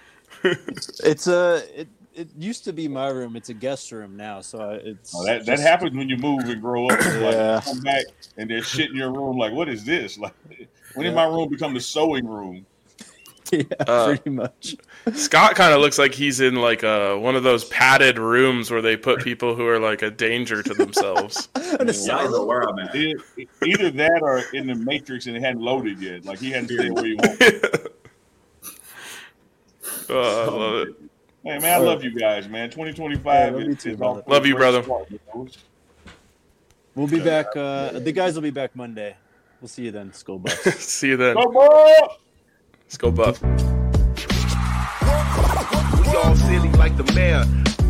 It used to be my room. It's a guest room now, so it's that happens when you move and grow up. Yeah. Like, you come back and there's shit in your room. Like, what is this? Like, when did my room become the sewing room? Yeah, pretty much. Scott kind of looks like he's in like one of those padded rooms where they put people who are like a danger to themselves. I don't know where I'm at. Either that or in the Matrix and it hadn't loaded yet. Like he hadn't stayed where he wanted. I love it. Hey, man, I love you guys, man. 2025 is brother. Love you, brother. We'll be back. The guys will be back Monday. We'll see you then, Skull Buffs. See you then. Go Buff! Let's go, Buff. We all silly like the mayor.